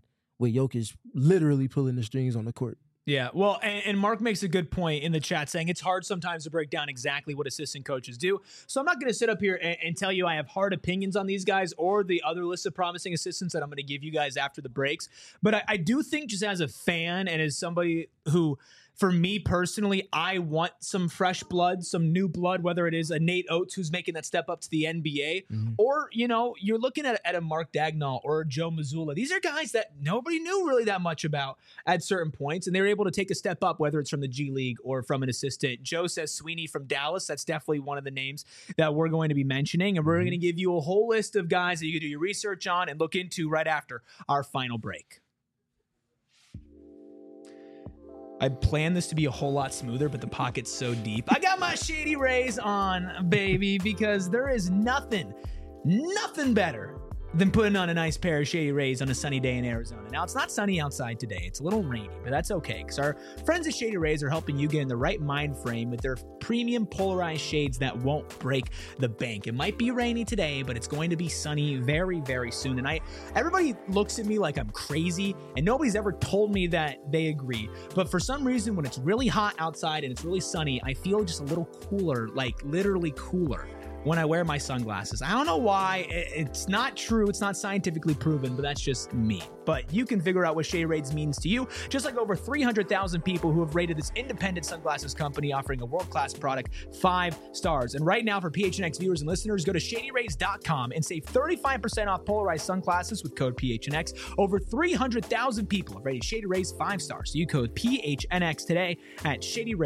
with Jokic literally pulling the strings on the court. Yeah, well, and Mark makes a good point in the chat saying it's hard sometimes to break down exactly what assistant coaches do. So I'm not going to sit up here and tell you I have hard opinions on these guys or the other list of promising assistants that I'm going to give you guys after the breaks. But I do think just as a fan and as somebody who, for me personally, I want some fresh blood, some new blood, whether it is a Nate Oates who's making that step up to the NBA, or, you're looking at a Mark Dagnall or a Joe Mazzulla. These are guys that nobody knew really that much about at certain points, and they were able to take a step up, whether it's from the G League or from an assistant. Joe says Sweeney from Dallas. That's definitely one of the names that we're going to be mentioning, and we're going to give you a whole list of guys that you can do your research on and look into right after our final break. I planned this to be a whole lot smoother, but the pocket's so deep. I got my Shady Rays on, baby, because there is nothing better than putting on a nice pair of Shady Rays on a sunny day in Arizona. Now, it's not sunny outside today. It's a little rainy, but that's okay because our friends at Shady Rays are helping you get in the right mind frame with their premium polarized shades that won't break the bank. It might be rainy today, but it's going to be sunny very, very soon. And everybody looks at me like I'm crazy, and nobody's ever told me that they agree. But for some reason, when it's really hot outside and it's really sunny, I feel just a little cooler, like literally cooler, when I wear my sunglasses. I don't know why. It's not true. It's not scientifically proven, but that's just me. But you can figure out what Shady Rays means to you, just like over 300,000 people who have rated this independent sunglasses company offering a world-class product 5 stars. And right now, for PHNX viewers and listeners, go to ShadyRays.com and save 35% off polarized sunglasses with code PHNX. Over 300,000 people have rated Shady Rays 5 stars. So you code PHNX today at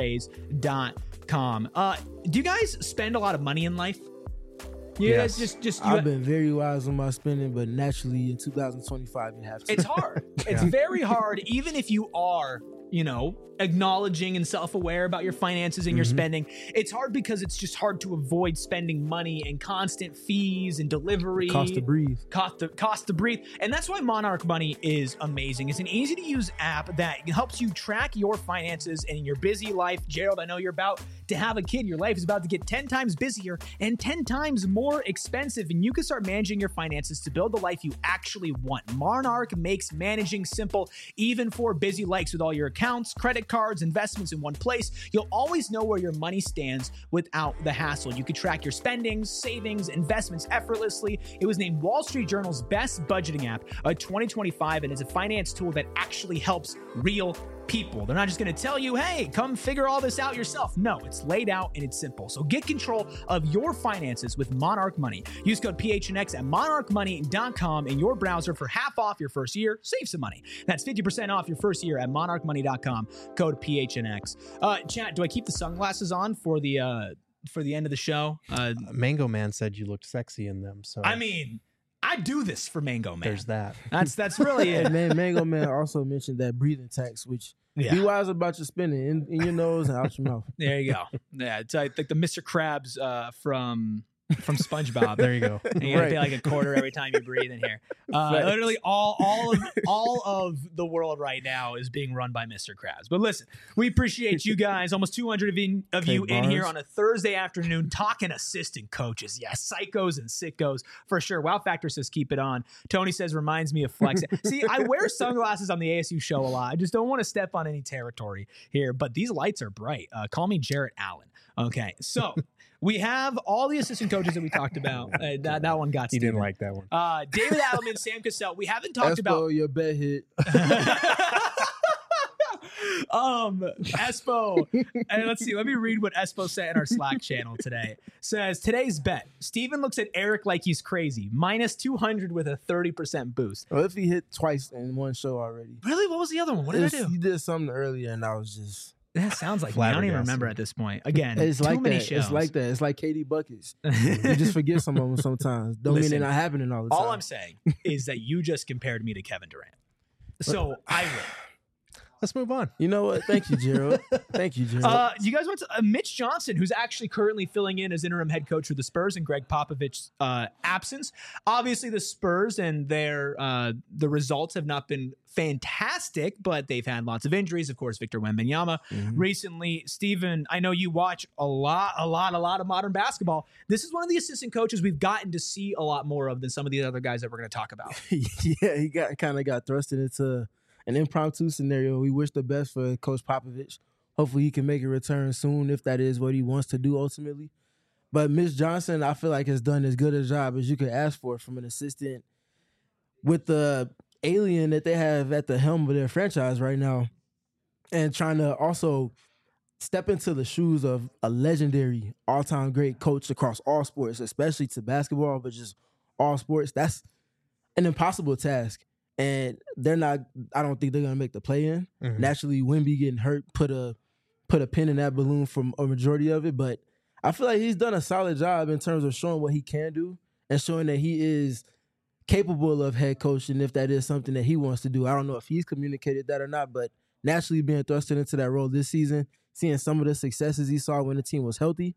ShadyRays.com. Do you guys spend a lot of money in life? Yes. I've been very wise on my spending, but naturally in 2025 you have to. It's hard. It's very hard, even if you are, acknowledging and self-aware about your finances and your spending. It's hard because it's just hard to avoid spending money and constant fees and delivery. Cost to breathe. Cost to breathe. And that's why Monarch Money is amazing. It's an easy-to-use app that helps you track your finances in your busy life. Gerald, I know you're about to have a kid. Your life is about to get 10 times busier and 10 times more expensive, and you can start managing your finances to build the life you actually want. Monarch makes managing simple, even for busy lives. With all your accounts, credit cards, investments in one place, you'll always know where your money stands without the hassle. You can track your spendings, savings, investments effortlessly. It was named Wall Street Journal's best budgeting app of 2025, and is a finance tool that actually helps real people. They're not just going to tell you, hey, come figure all this out yourself. No, it's laid out and it's simple. So get control of your finances with Monarch Money. Use code PHNX at monarchmoney.com in your browser for half off your first year. Save some money. That's 50% off your first year at monarchmoney.com. Code PHNX. Chat, do I keep the sunglasses on for the end of the show? Mango Man said you looked sexy in them. So I mean, I do this for Mango Man. There's that. That's really it. Mango Man also mentioned that breathing tax, which be wise about your spending in your nose and out your mouth. There you go. Yeah, it's like the Mr. Krabs from SpongeBob. There you go. And you gotta pay like a quarter every time you breathe in here. Literally all of the world right now is being run by Mr. Krabs. But listen, we appreciate you guys. Almost 200 of you in here on a Thursday afternoon talking assistant coaches. Yes, psychos and sickos for sure. Wow Factor says keep it on. Tony says reminds me of Flex. See, I wear sunglasses on the ASU show a lot. I just don't want to step on any territory here. But these lights are bright. Call me Jarrett Allen. Okay, so. We have all the assistant coaches that we talked about. That one got Steven. He didn't like that one. David Adelman, Sam Cassell. We haven't talked about your bet hit. Espo. And let's see. Let me read what Espo said in our Slack channel today. Says today's bet. Steven looks at Eric like he's crazy. Minus 200 with a 30% boost. Well, if he hit twice in one show already. Really? What was the other one? What did I do? He did something earlier, and I was just. That sounds like me. I don't even remember at this point. Again, it's too like many that. shows. It's like that. It's like KD buckets. You just forget some of them sometimes. Don't mean they're not happening all the time. All I'm saying is that you just compared me to Kevin Durant. So I win. Let's move on. You know what? Thank you, Gerald. Thank you, Gerald. You guys went to Mitch Johnson, who's actually currently filling in as interim head coach for the Spurs in Greg Popovich's absence. Obviously, the Spurs and their the results have not been fantastic, but they've had lots of injuries. Of course, Victor Wembanyama recently. Steven, I know you watch a lot of modern basketball. This is one of the assistant coaches we've gotten to see a lot more of than some of the other guys that we're going to talk about. Yeah, he kind of got thrusted into an impromptu scenario. We wish the best for Coach Popovich. Hopefully he can make a return soon if that is what he wants to do ultimately. But Mitch Johnson, I feel like, has done as good a job as you could ask for from an assistant with the alien that they have at the helm of their franchise right now, and trying to also step into the shoes of a legendary all-time great coach across all sports, especially to basketball, but just all sports. That's an impossible task. And they're not, I don't think they're going to make the play-in. Naturally, Wemby getting hurt put a pin in that balloon for a majority of it. But I feel like he's done a solid job in terms of showing what he can do and showing that he is capable of head coaching if that is something that he wants to do. I don't know if he's communicated that or not, but naturally being thrusted into that role this season, seeing some of the successes he saw when the team was healthy,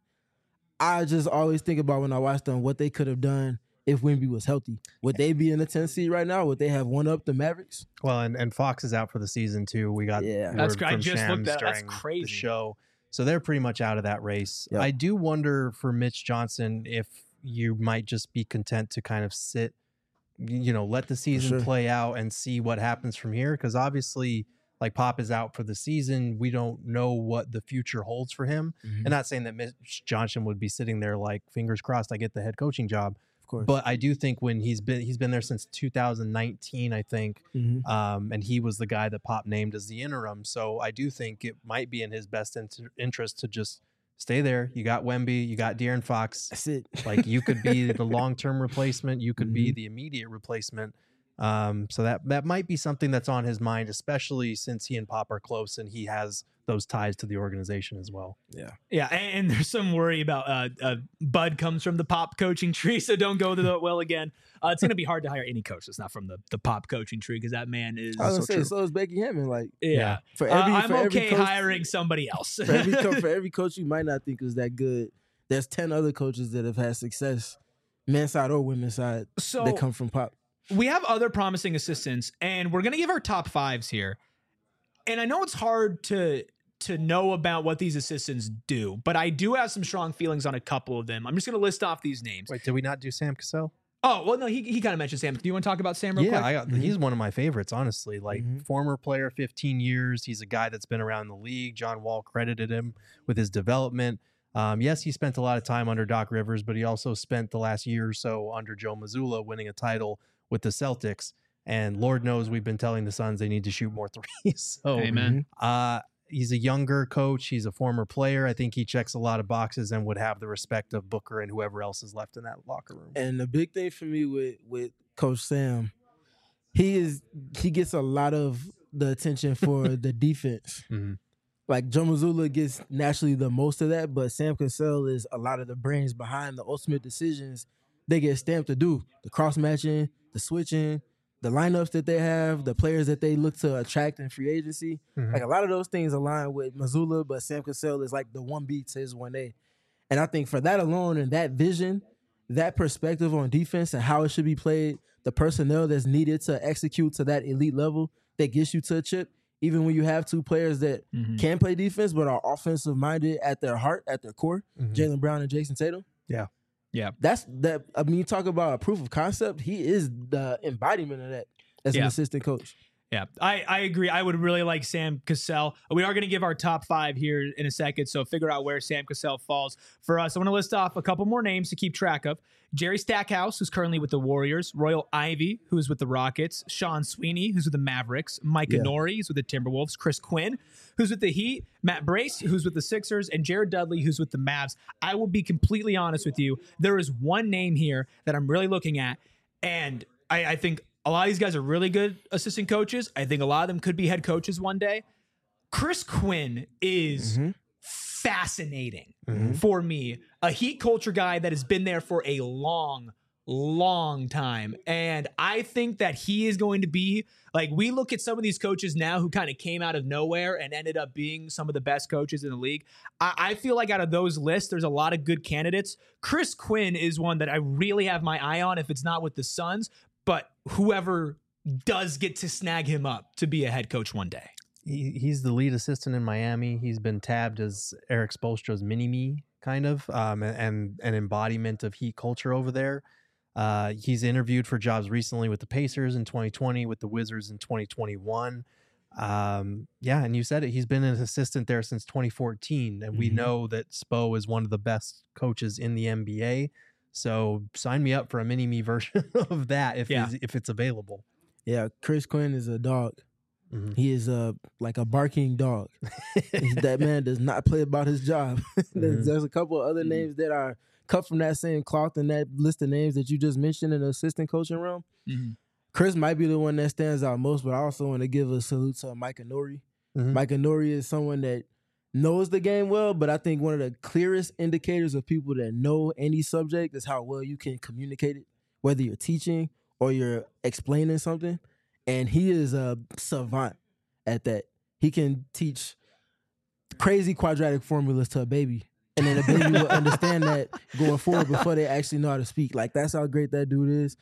I just always think about when I watch them what they could have done if Wemby was healthy. Would they be in the 10th seed right now? Would they have won up the Mavericks? Well, and Fox is out for the season too. We got that's word I from just Shams looked at that's during crazy. the show. So they're pretty much out of that race. Yep. I do wonder for Mitch Johnson if you might just be content to kind of sit, let the season play out and see what happens from here. Because obviously, like, Pop is out for the season. We don't know what the future holds for him. And not saying that Mitch Johnson would be sitting there like, fingers crossed, I get the head coaching job. Of course. But I do think when he's been there since 2019, I think, and he was the guy that Pop named as the interim. So I do think it might be in his best interest to just stay there. You got Wemby, you got De'Aaron Fox. That's it. Like, you could be the long-term replacement. You could be the immediate replacement. So that might be something that's on his mind, especially since he and Pop are close and he has those ties to the organization as well. Yeah, and there's some worry about Bud comes from the Pop coaching tree, so don't go to the well again. It's going to be hard to hire any coach that's not from the Pop coaching tree, because that man is. I was going to say, so is Becky Hammond. Like, I'm okay hiring somebody else. for every coach you might not think is that good, there's 10 other coaches that have had success, men's side or women's side, that come from Pop. We have other promising assistants, and we're going to give our top fives here. And I know it's hard to know about what these assistants do, but I do have some strong feelings on a couple of them. I'm just going to list off these names. Wait, did we not do Sam Cassell? Oh, well, no, he kind of mentioned Sam. Do you want to talk about Sam real quick? He's one of my favorites, honestly. Like, former player, 15 years. He's a guy that's been around the league. John Wall credited him with his development. Yes, he spent a lot of time under Doc Rivers, but he also spent the last year or so under Joe Mazzulla winning a title with the Celtics. And Lord knows we've been telling the Suns they need to shoot more threes. So, amen. He's a younger coach. He's a former player. I think he checks a lot of boxes and would have the respect of Booker and whoever else is left in that locker room. And the big thing for me with Coach Sam, he gets a lot of the attention for the defense. Like, Joe Mazzulla gets naturally the most of that, but Sam Cassell is a lot of the brains behind the ultimate decisions they get stamped to do. The cross-matching, the switching, the lineups that they have, the players that they look to attract in free agency. Like, a lot of those things align with Mazzulla, but Sam Cassell is like the 1B to his 1A. And I think for that alone and that vision, that perspective on defense and how it should be played, the personnel that's needed to execute to that elite level that gets you to a chip, even when you have two players that can play defense but are offensive-minded at their heart, at their core, Jaylen Brown and Jason Tatum. Yeah. That's that. I mean, you talk about a proof of concept. He is the embodiment of that as an assistant coach. Yeah, I agree. I would really like Sam Cassell. We are going to give our top five here in a second, so figure out where Sam Cassell falls for us. I want to list off a couple more names to keep track of. Jerry Stackhouse, who's currently with the Warriors. Royal Ivey, who's with the Rockets. Sean Sweeney, who's with the Mavericks. Micah Nori, who's with the Timberwolves. Chris Quinn, who's with the Heat. Matt Brace, who's with the Sixers. And Jared Dudley, who's with the Mavs. I will be completely honest with you. There is one name here that I'm really looking at, and I think a lot of these guys are really good assistant coaches. I think a lot of them could be head coaches one day. Chris Quinn is fascinating for me. A Heat culture guy that has been there for a long long time. And I think that he is going to be like, we look at some of these coaches now who kind of came out of nowhere and ended up being some of the best coaches in the league. I feel like out of those lists, there's a lot of good candidates. Chris Quinn is one that I really have my eye on, if it's not with the Suns, but whoever does get to snag him up to be a head coach one day. He's the lead assistant in Miami. He's been tabbed as Eric Spoelstra's mini-me, kind of, and an embodiment of Heat culture over there. He's interviewed for jobs recently with the Pacers in 2020, with the Wizards in 2021. And you said it. He's been an assistant there since 2014, and we know that Spo is one of the best coaches in the NBA. So sign me up for a mini-me version of that if it's available. Yeah, Chris Quinn is a dog. He is like a barking dog. That man does not play about his job. There's a couple of other names that are cut from that same cloth in that list of names that you just mentioned in the assistant coaching realm. Chris might be the one that stands out most, but I also want to give a salute to Micah Nori. Micah Nori is someone that knows the game well, but I think one of the clearest indicators of people that know any subject is how well you can communicate it, whether you're teaching or you're explaining something. And he is a savant at that. He can teach crazy quadratic formulas to a baby, and then a baby will understand that going forward before they actually know how to speak. Like, that's how great that dude is.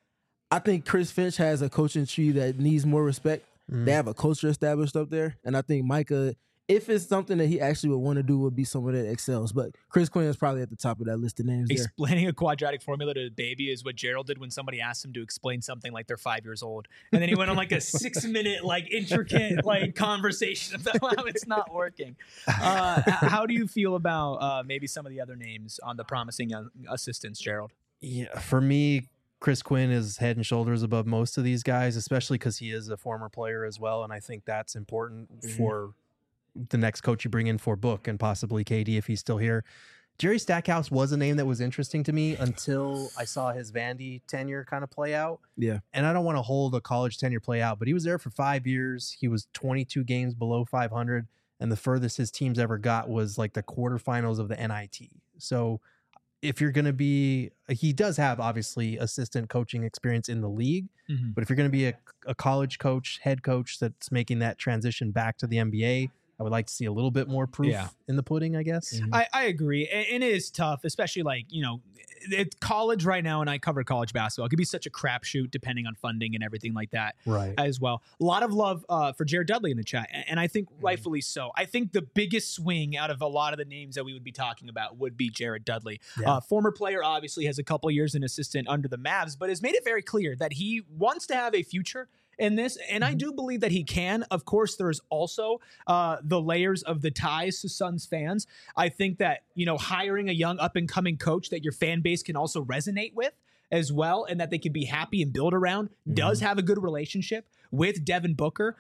I think Chris Finch has a coaching tree that needs more respect. They have a culture established up there, and I think Micah, if it's something that he actually would want to do, would be someone that excels. But Chris Quinn is probably at the top of that list of names. Explaining a quadratic formula to a baby is what Gerald did when somebody asked him to explain something like they're 5 years old. And then he went on like a 6-minute, like intricate, like conversation about how it's not working. How do you feel about maybe some of the other names on the promising young assistants, Gerald? Yeah, for me, Chris Quinn is head and shoulders above most of these guys, especially because he is a former player as well. And I think that's important for the next coach you bring in for Book and possibly KD if he's still here. Jerry Stackhouse was a name that was interesting to me until I saw his Vandy tenure kind of play out. Yeah. And I don't want to hold a college tenure play out, but he was there for 5 years. He was 22 games below 500. And the furthest his teams ever got was like the quarterfinals of the NIT. So if you're going to be, he does have obviously assistant coaching experience in the league, but if you're going to be a college coach, head coach that's making that transition back to the NBA, I would like to see a little bit more proof in the pudding, I guess. I agree. And it is tough, especially like, you know, it's college right now, and I cover college basketball. It could be such a crapshoot depending on funding and everything like that as well. A lot of love for Jared Dudley in the chat, and I think rightfully so. I think the biggest swing out of a lot of the names that we would be talking about would be Jared Dudley. Former player, obviously has a couple years in assistant under the Mavs, but has made it very clear that he wants to have a future in this, and I do believe that he can. Of course, there's also the layers of the ties to Suns fans. I think that, you know, hiring a young up-and-coming coach that your fan base can also resonate with as well, and that they can be happy and build around, does have a good relationship with Devin Booker.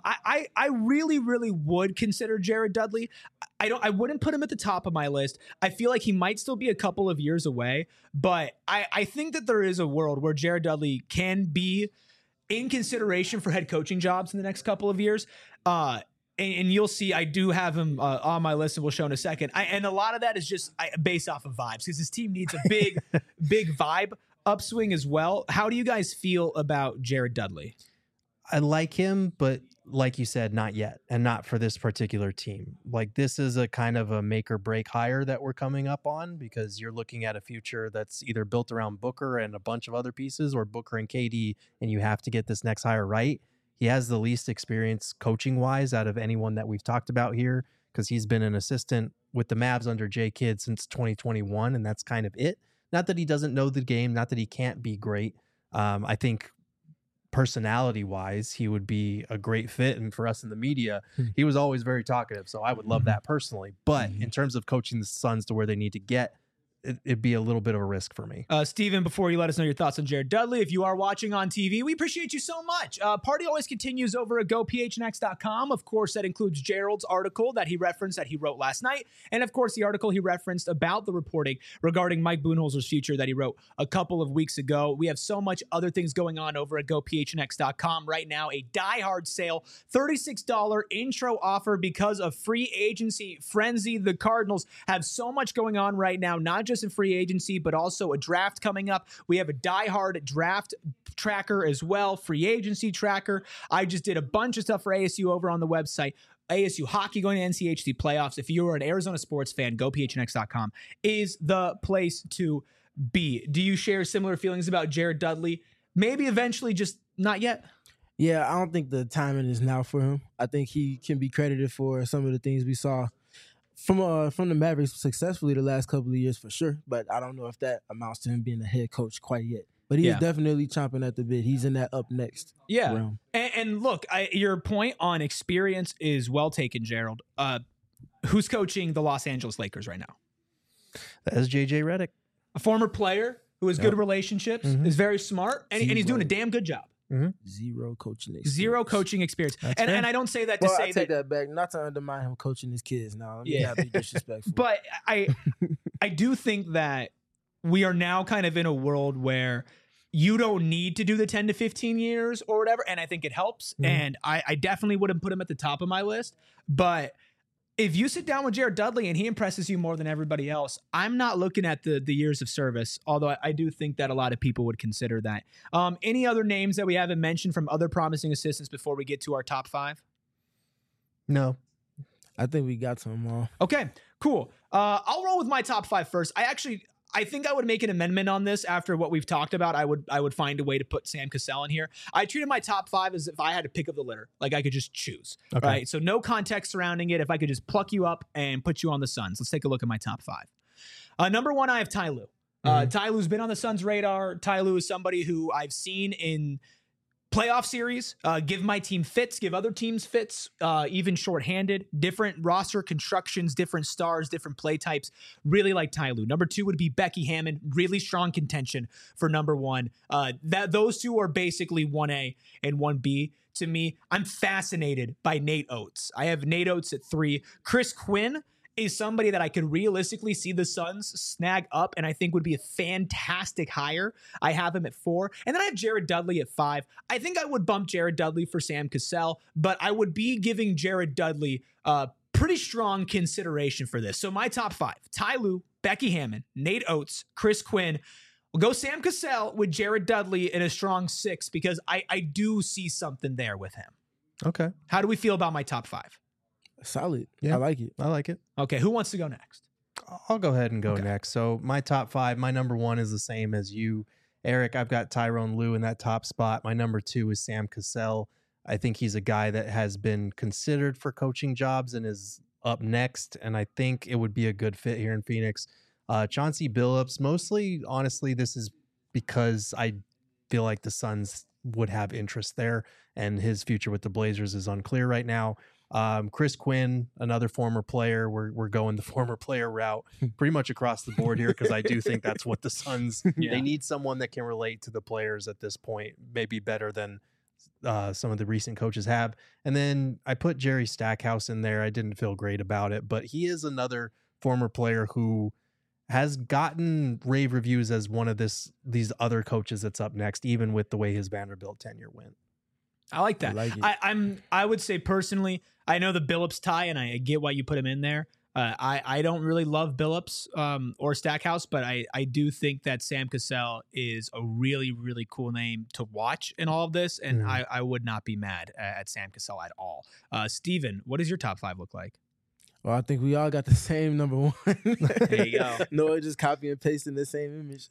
I really, really would consider Jared Dudley. I wouldn't put him at the top of my list. I feel like he might still be a couple of years away, but I think that there is a world where Jared Dudley can be in consideration for head coaching jobs in the next couple of years. And you'll see, I do have him on my list, and we'll show in a second. And a lot of that is just based off of vibes, because his team needs a big, big vibe upswing as well. How do you guys feel about Jared Dudley? I like him, but like you said, not yet, and not for this particular team. Like, this is a kind of a make or break hire that we're coming up on, because you're looking at a future that's either built around Booker and a bunch of other pieces, or Booker and KD, and you have to get this next hire right. He has the least experience coaching wise out of anyone that we've talked about here, because he's been an assistant with the Mavs under Jay Kidd since 2021, and that's kind of it. Not that he doesn't know the game, not that he can't be great. I think personality wise, he would be a great fit. And for us in the media, he was always very talkative. So I would love that personally. But in terms of coaching the Suns to where they need to get, it'd be a little bit of a risk for me. Steven, before you let us know your thoughts on Jared Dudley, if you are watching on TV, we appreciate you so much. Party always continues over at gophnx.com. Of course, that includes Gerald's article that he referenced, that he wrote last night. And of course, the article he referenced about the reporting regarding Mike Budenholzer's future that he wrote a couple of weeks ago. We have so much other things going on over at gophnx.com right now. A diehard sale, $36 intro offer because of free agency frenzy. The Cardinals have so much going on right now, not just just in free agency, but also a draft coming up. We have a diehard draft tracker as well, free agency tracker. I just did a bunch of stuff for ASU over on the website. ASU hockey going to NCHC playoffs. If you are an Arizona sports fan, go phnx.com is the place to be. Do you share similar feelings about Jared Dudley? Maybe eventually, just not yet. Yeah, I don't think the timing is now for him. I think he can be credited for some of the things we saw from the Mavericks successfully the last couple of years for sure. But I don't know if that amounts to him being a head coach quite yet. But he is definitely chomping at the bit. He's in that up next realm. And look, your point on experience is well taken, Gerald. Who's coaching the Los Angeles Lakers right now? That is JJ Redick. A former player who has good relationships, is very smart, and he's doing a damn good job. Zero coaching experience. And I don't say that to say I take that back, not to undermine him coaching his kids now. Let me not be disrespectful. But I do think that we are now kind of in a world where you don't need to do the 10 to 15 years or whatever. And I think it helps. And I definitely wouldn't put him at the top of my list. But if you sit down with Jared Dudley and he impresses you more than everybody else, I'm not looking at the years of service, although I do think that a lot of people would consider that. Any other names that we haven't mentioned from other promising assistants before we get to our top 5? No. I think we got some all. Okay, cool. I'll roll with my top 5 first. I think I would make an amendment on this after what we've talked about. I would find a way to put Sam Cassell in here. I treated my top 5 as if I had to pick of the litter. Like I could just choose. Okay. Right? So no context surrounding it. If I could just pluck you up and put you on the Suns. Let's take a look at my top 5. Number 1, I have Ty Lue. Ty Lue's been on the Suns' radar. Ty Lue is somebody who I've seen in playoff series, give my team fits, give other teams fits, even shorthanded, different roster constructions, different stars, different play types. Really like Ty Lue. Number 2 would be Becky Hammon. Really strong contention for number 1. Those two are basically 1A and 1B to me. I'm fascinated by Nate Oates. I have Nate Oates at 3. Chris Quinn is somebody that I could realistically see the Suns snag up and I think would be a fantastic hire. I have him at 4. And then I have Jared Dudley at 5. I think I would bump Jared Dudley for Sam Cassell, but I would be giving Jared Dudley pretty strong consideration for this. So my top 5, Ty Lue, Becky Hammon, Nate Oates, Chris Quinn. We'll go Sam Cassell with Jared Dudley in a strong 6 because I do see something there with him. Okay. How do we feel about my top 5? Solid. Yeah. I like it. Okay, who wants to go next? I'll go ahead and go next. So my top 5, my number 1 is the same as you, Eric. I've got Tyronn Lue in that top spot. My number 2 is Sam Cassell. I think he's a guy that has been considered for coaching jobs and is up next, and I think it would be a good fit here in Phoenix. Chauncey Billups, mostly, honestly, this is because I feel like the Suns would have interest there, and his future with the Blazers is unclear right now. Chris Quinn, another former player. We're going the former player route pretty much across the board here because I do think that's what the Suns, they need someone that can relate to the players at this point, maybe better than some of the recent coaches have. And then I put Jerry Stackhouse in there. I didn't feel great about it, but he is another former player who has gotten rave reviews as one of these other coaches that's up next, even with the way his Vanderbilt tenure went. I like that. I would say personally, I know the Billups tie, and I get why you put him in there. I don't really love Billups or Stackhouse, but I do think that Sam Cassell is a really, really cool name to watch in all of this, and I would not be mad at Sam Cassell at all. Steven, what does your top 5 look like? Well, I think we all got the same number 1. There you go. No, just copy and pasting the same image.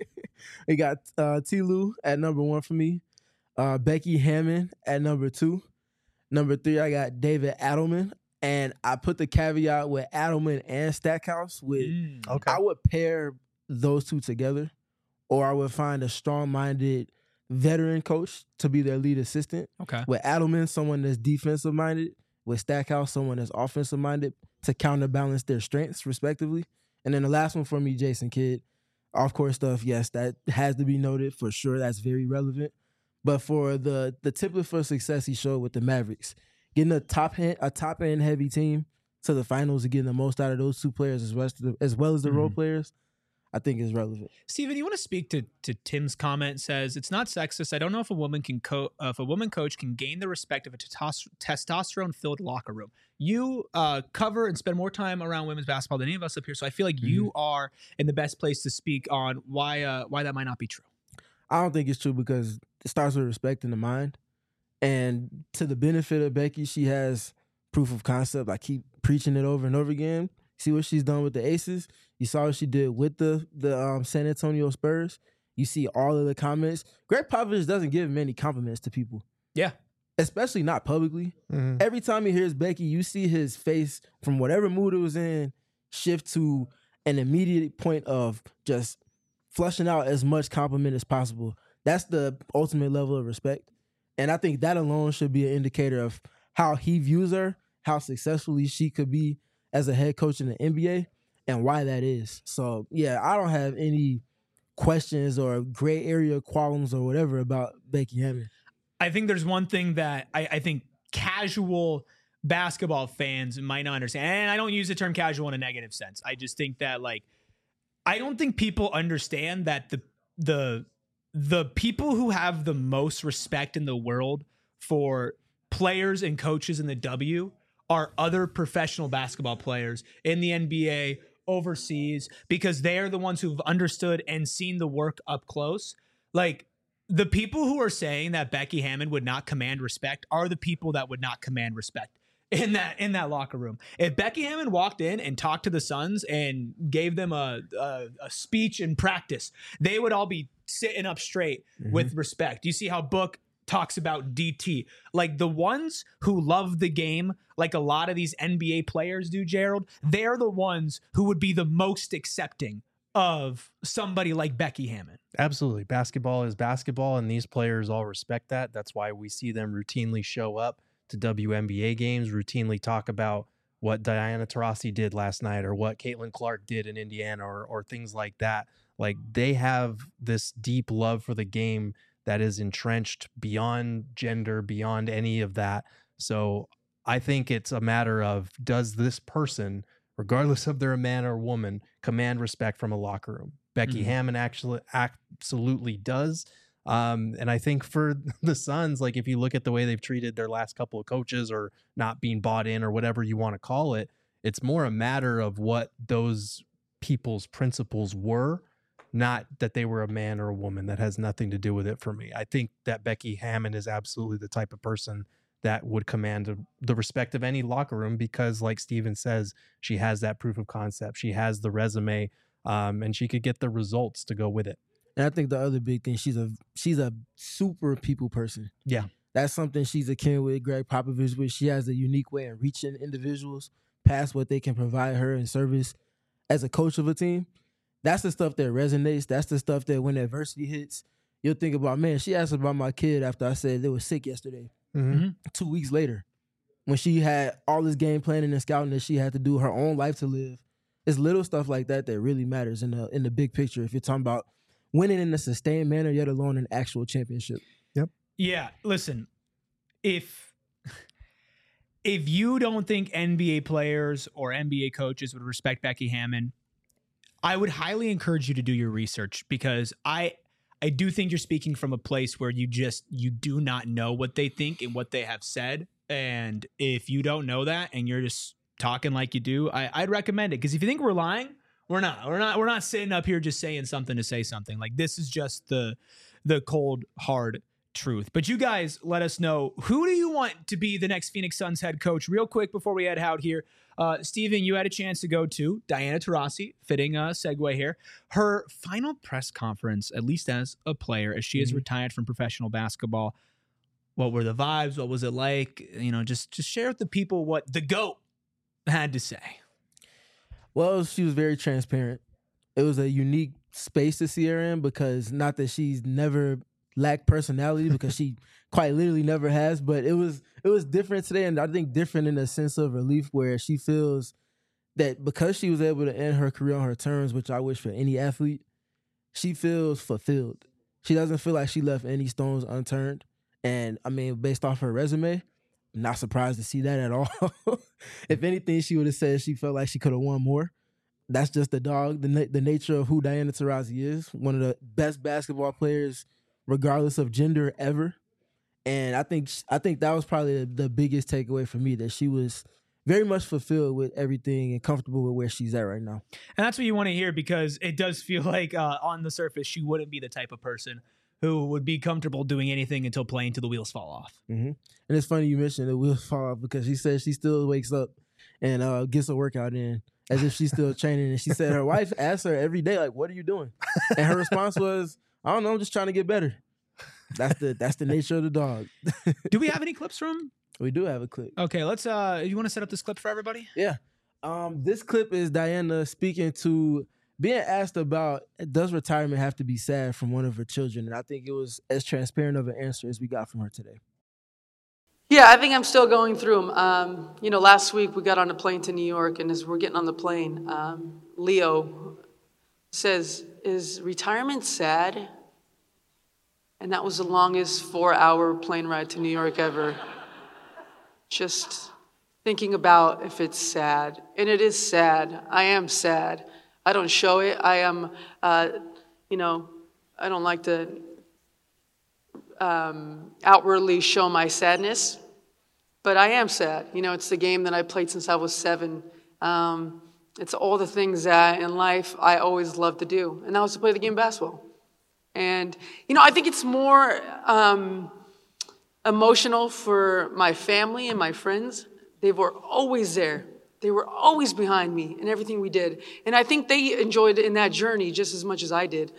We got Ty Lue at number 1 for me. Becky Hammon at number 2. Number 3, I got David Adelman. And I put the caveat with Adelman and Stackhouse with I would pair those two together, or I would find a strong-minded veteran coach to be their lead assistant. Okay. With Adelman, someone that's defensive-minded. With Stackhouse, someone that's offensive-minded to counterbalance their strengths, respectively. And then the last one for me, Jason Kidd. Off-court stuff, yes, that has to be noted for sure. That's very relevant. But for the template for success he showed with the Mavericks, getting a top-end heavy team to the finals and getting the most out of those two players as well as the role players, I think is relevant. Steven, you want to speak to Tim's comment? Says it's not sexist. I don't know if a woman coach can gain the respect of a testosterone-filled locker room. You cover and spend more time around women's basketball than any of us up here, so I feel like you are in the best place to speak on why that might not be true. I don't think it's true because it starts with respect in the mind, and to the benefit of Becky, she has proof of concept. I keep preaching it over and over again. See what she's done with the Aces. You saw what she did with the San Antonio Spurs. You see all of the comments. Greg Popovich doesn't give many compliments to people. Yeah. Especially not publicly. Mm-hmm. Every time he hears Becky, you see his face from whatever mood it was in shift to an immediate point of just flushing out as much compliment as possible. That's the ultimate level of respect. And I think that alone should be an indicator of how he views her, how successfully she could be as a head coach in the NBA, and why that is. So, yeah, I don't have any questions or gray area qualms or whatever about Becky Hammon. I think there's one thing that I think casual basketball fans might not understand. And I don't use the term casual in a negative sense. I just think that, like, I don't think people understand that the people who have the most respect in the world for players and coaches in the W are other professional basketball players in the NBA, overseas, because they are the ones who've understood and seen the work up close. Like, the people who are saying that Becky Hammon would not command respect are the people that would not command respect in that locker room. If Becky Hammon walked in and talked to the Suns and gave them a speech in practice, they would all be sitting up straight with respect. You see how Book talks about DT. Like, the ones who love the game, like a lot of these NBA players do, Gerald, they're the ones who would be the most accepting of somebody like Becky Hammon. Absolutely. Basketball is basketball, and these players all respect that. That's why we see them routinely show up to WNBA games, routinely talk about what Diana Taurasi did last night or what Caitlin Clark did in Indiana or things like that. Like, they have this deep love for the game that is entrenched beyond gender, beyond any of that. So I think it's a matter of, does this person, regardless of they're a man or a woman, command respect from a locker room? Becky Hammon actually absolutely does. And I think for the Suns, like, if you look at the way they've treated their last couple of coaches or not being bought in or whatever you want to call it, it's more a matter of what those people's principles were, not that they were a man or a woman. That has nothing to do with it for me. I think that Becky Hammon is absolutely the type of person that would command the respect of any locker room because, like Steven says, she has that proof of concept. She has the resume, and she could get the results to go with it. And I think the other big thing, she's a super people person. Yeah. That's something she's akin with Greg Popovich, with. She has a unique way of reaching individuals past what they can provide her in service as a coach of a team. That's the stuff that resonates. That's the stuff that when adversity hits, you'll think about, man, she asked about my kid after I said they were sick yesterday. 2 weeks later, when she had all this game planning and scouting that she had to do, her own life to live. It's little stuff like that that really matters in the big picture if you're talking about winning in a sustained manner, yet alone an actual championship. Yep. Yeah, listen, if you don't think NBA players or NBA coaches would respect Becky Hammon, I would highly encourage you to do your research, because I do think you're speaking from a place where you do not know what they think and what they have said. And if you don't know that and you're just talking like you do, I'd recommend it. Because if you think we're lying, we're not sitting up here just saying something to say something. Like, this is just the cold, hard truth. But you guys let us know, who do you want to be the next Phoenix Suns head coach? Real quick before we head out here, Steven, you had a chance to go to Diana Taurasi, fitting segue here, her final press conference, at least as a player, as she has retired from professional basketball. What were the vibes? What was it like? You know, just share with the people what the GOAT had to say. Well, she was very transparent. It was a unique space to see her in, because not that she's never lacked personality, because she quite literally never has, but it was different today, and I think different in a sense of relief, where she feels that because she was able to end her career on her terms, which I wish for any athlete, she feels fulfilled. She doesn't feel like she left any stones unturned. And I mean, based off her resume, I'm not surprised to see that at all. If anything, she would have said she felt like she could have won more. that's just the dog, the nature of who Diana Taurasi is. One of the best basketball players, regardless of gender, ever. And I think that was probably the biggest takeaway for me, that she was very much fulfilled with everything and comfortable with where she's at right now. And that's what you want to hear, because it does feel like on the surface, she wouldn't be the type of person who would be comfortable doing anything until playing till the wheels fall off. Mm-hmm. And it's funny you mentioned the wheels fall off, because she says she still wakes up and gets a workout in as if she's still training. And she said her wife asks her every day, like, what are you doing? And her response was, I don't know, I'm just trying to get better. That's the nature of the dog. Do we have any clips from? We do have a clip. Okay, let's you want to set up this clip for everybody? Yeah. This clip is Diana speaking to, being asked about, does retirement have to be sad from one of her children? And I think it was as transparent of an answer as we got from her today. Yeah, I think I'm still going through them. Last week we got on a plane to New York, and as we're getting on the plane, Leo says, is retirement sad? And that was the longest 4-hour plane ride to New York ever. Just thinking about if it's sad. And it is sad. I am sad. I don't show it. I am, I don't like to outwardly show my sadness, but I am sad. It's the game that I played since I was 7. It's all the things that in life I always loved to do, and that was to play the game of basketball. And, I think it's more emotional for my family and my friends. They were always there. They were always behind me in everything we did. And I think they enjoyed in that journey just as much as I did.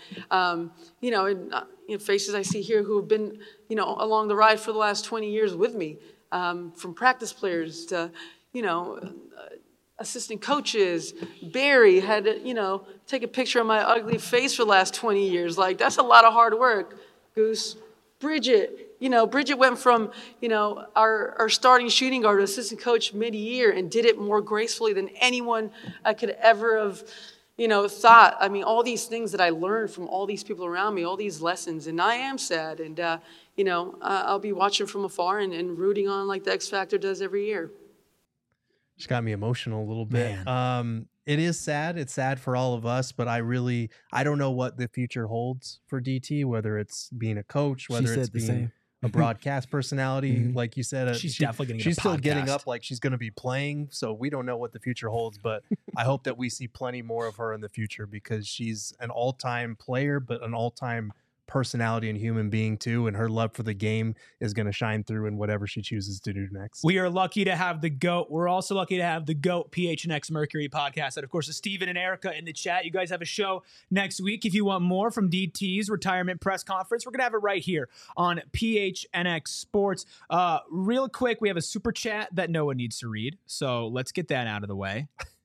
Faces I see here who have been, along the ride for the last 20 years with me, from practice players to, assistant coaches. Barry had to, take a picture of my ugly face for the last 20 years. Like, that's a lot of hard work, Goose. Bridget. Bridget went from, our starting shooting guard to assistant coach mid-year and did it more gracefully than anyone I could ever have, thought. I mean, all these things that I learned from all these people around me, all these lessons, and I am sad. And, I'll be watching from afar and rooting on like the X Factor does every year. Just got me emotional a little bit. Man. It is sad. It's sad for all of us, but I don't know what the future holds for DT, whether it's being a coach, whether it's being a broadcast personality. Mm-hmm. Like you said, she's definitely going to get she's a still podcast. getting up like she's going to be playing. So we don't know what the future holds, but I hope that we see plenty more of her in the future, because she's an all-time player, but an all-time personality and human being too, and her love for the game is going to shine through in whatever she chooses to do next. We are lucky to have the GOAT. We're also lucky to have the GOAT PHNX Mercury podcast. And of course, Steven and Erica in the chat. You guys have a show next week. If you want more from DT's retirement press conference, we're going to have it right here on PHNX Sports. Real quick, we have a super chat that Noah needs to read. So let's get that out of the way.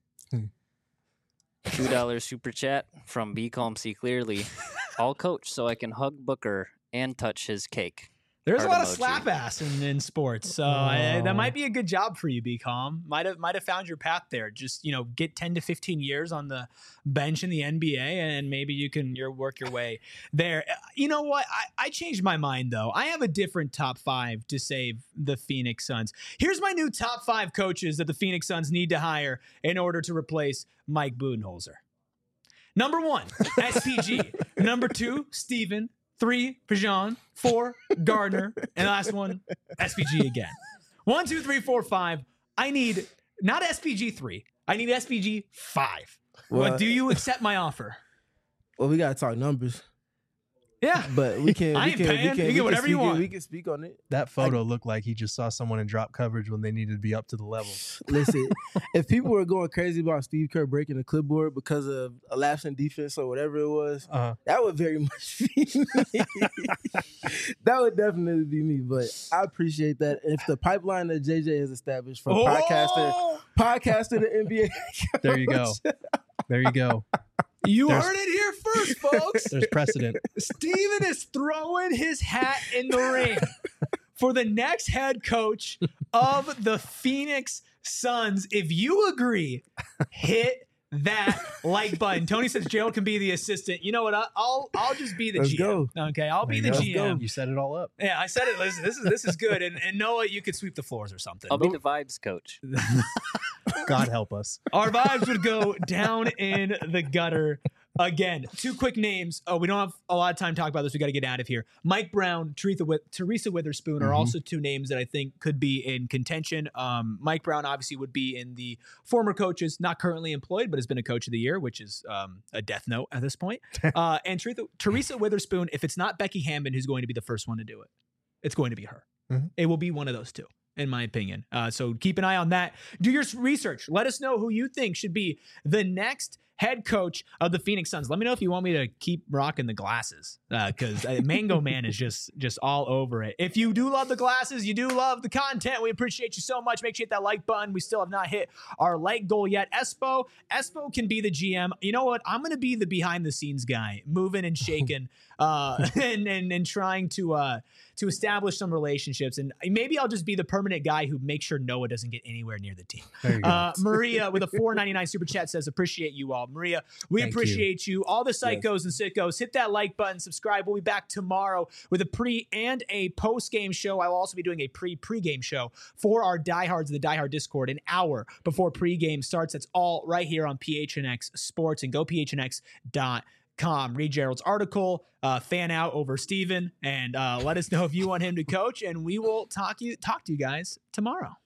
$2 super chat from Be Calm See Clearly. I'll coach so I can hug Booker and touch his cake. There's a lot of emoji. slap ass in sports, so that might be a good job for you, B Calm. Might have found your path there. Just get 10 to 15 years on the bench in the NBA, and maybe you can work your way there. You know what? I changed my mind though. I have a different top 5 to save the Phoenix Suns. Here's my new top 5 coaches that the Phoenix Suns need to hire in order to replace Mike Budenholzer. Number 1, SPG. Number 2, Steven. 3, Pajan. 4, Gardner. And the last one, SPG again. 1, 2, 3, 4, 5. I need not SPG 3. I need SPG 5. Well, do you accept my offer? Well, we gotta talk numbers. Yeah, but we can. I ain't paying. You get whatever you want. We can speak on it. That photo looked like he just saw someone in drop coverage when they needed to be up to the level. Listen, if people were going crazy about Steve Kerr breaking the clipboard because of a lapse in defense or whatever it was, that would very much be me. That would definitely be me. But I appreciate that. If the pipeline that JJ has established from podcaster to NBA, there you go. There you go. You heard it here first, folks. There's precedent. Steven is throwing his hat in the ring for the next head coach of the Phoenix Suns. If you agree, hit that like button. Tony says Gerald can be the assistant. You know what? I'll just be the Let's GM. go. Okay, I'll be the Let's GM. go. You set it all up. Yeah, I said it. Listen, this is good. And Noah, you could sweep the floors or something. I'll be the vibes coach. God help us. Our vibes would go down in the gutter. Again, 2 quick names. Oh, we don't have a lot of time to talk about this. We got to get out of here. Mike Brown, Teresa Witherspoon are also 2 names that I think could be in contention. Mike Brown obviously would be in the former coaches, not currently employed, but has been a coach of the year, which is a death note at this point. And Teresa Witherspoon, if it's not Becky Hammond who's going to be the first one to do it, it's going to be her. It will be one of those 2. In my opinion. So keep an eye on that. Do your research. Let us know who you think should be the next head coach of the Phoenix Suns. Let me know if you want me to keep rocking the glasses because Mango Man is just all over it. If you do love the glasses, you do love the content, we appreciate you so much. Make sure you hit that like button. We still have not hit our like goal yet. Espo can be the GM. You know what? I'm going to be the behind the scenes guy, moving and shaking and trying to establish some relationships. And maybe I'll just be the permanent guy who makes sure Noah doesn't get anywhere near the team. There you go. Maria with a $4.99 super chat says, appreciate you all. Maria, we appreciate you. All the psychos and sickos, hit that like button, subscribe. We'll be back tomorrow with a pre and a post-game show. I will also be doing a pre-game show for our diehards of the Die Hard Discord an hour before pregame starts. That's all right here on PHNX Sports, and go phnx.com. Read Gerald's article, fan out over Steven, and let us know if you want him to coach, and we will talk to you guys tomorrow.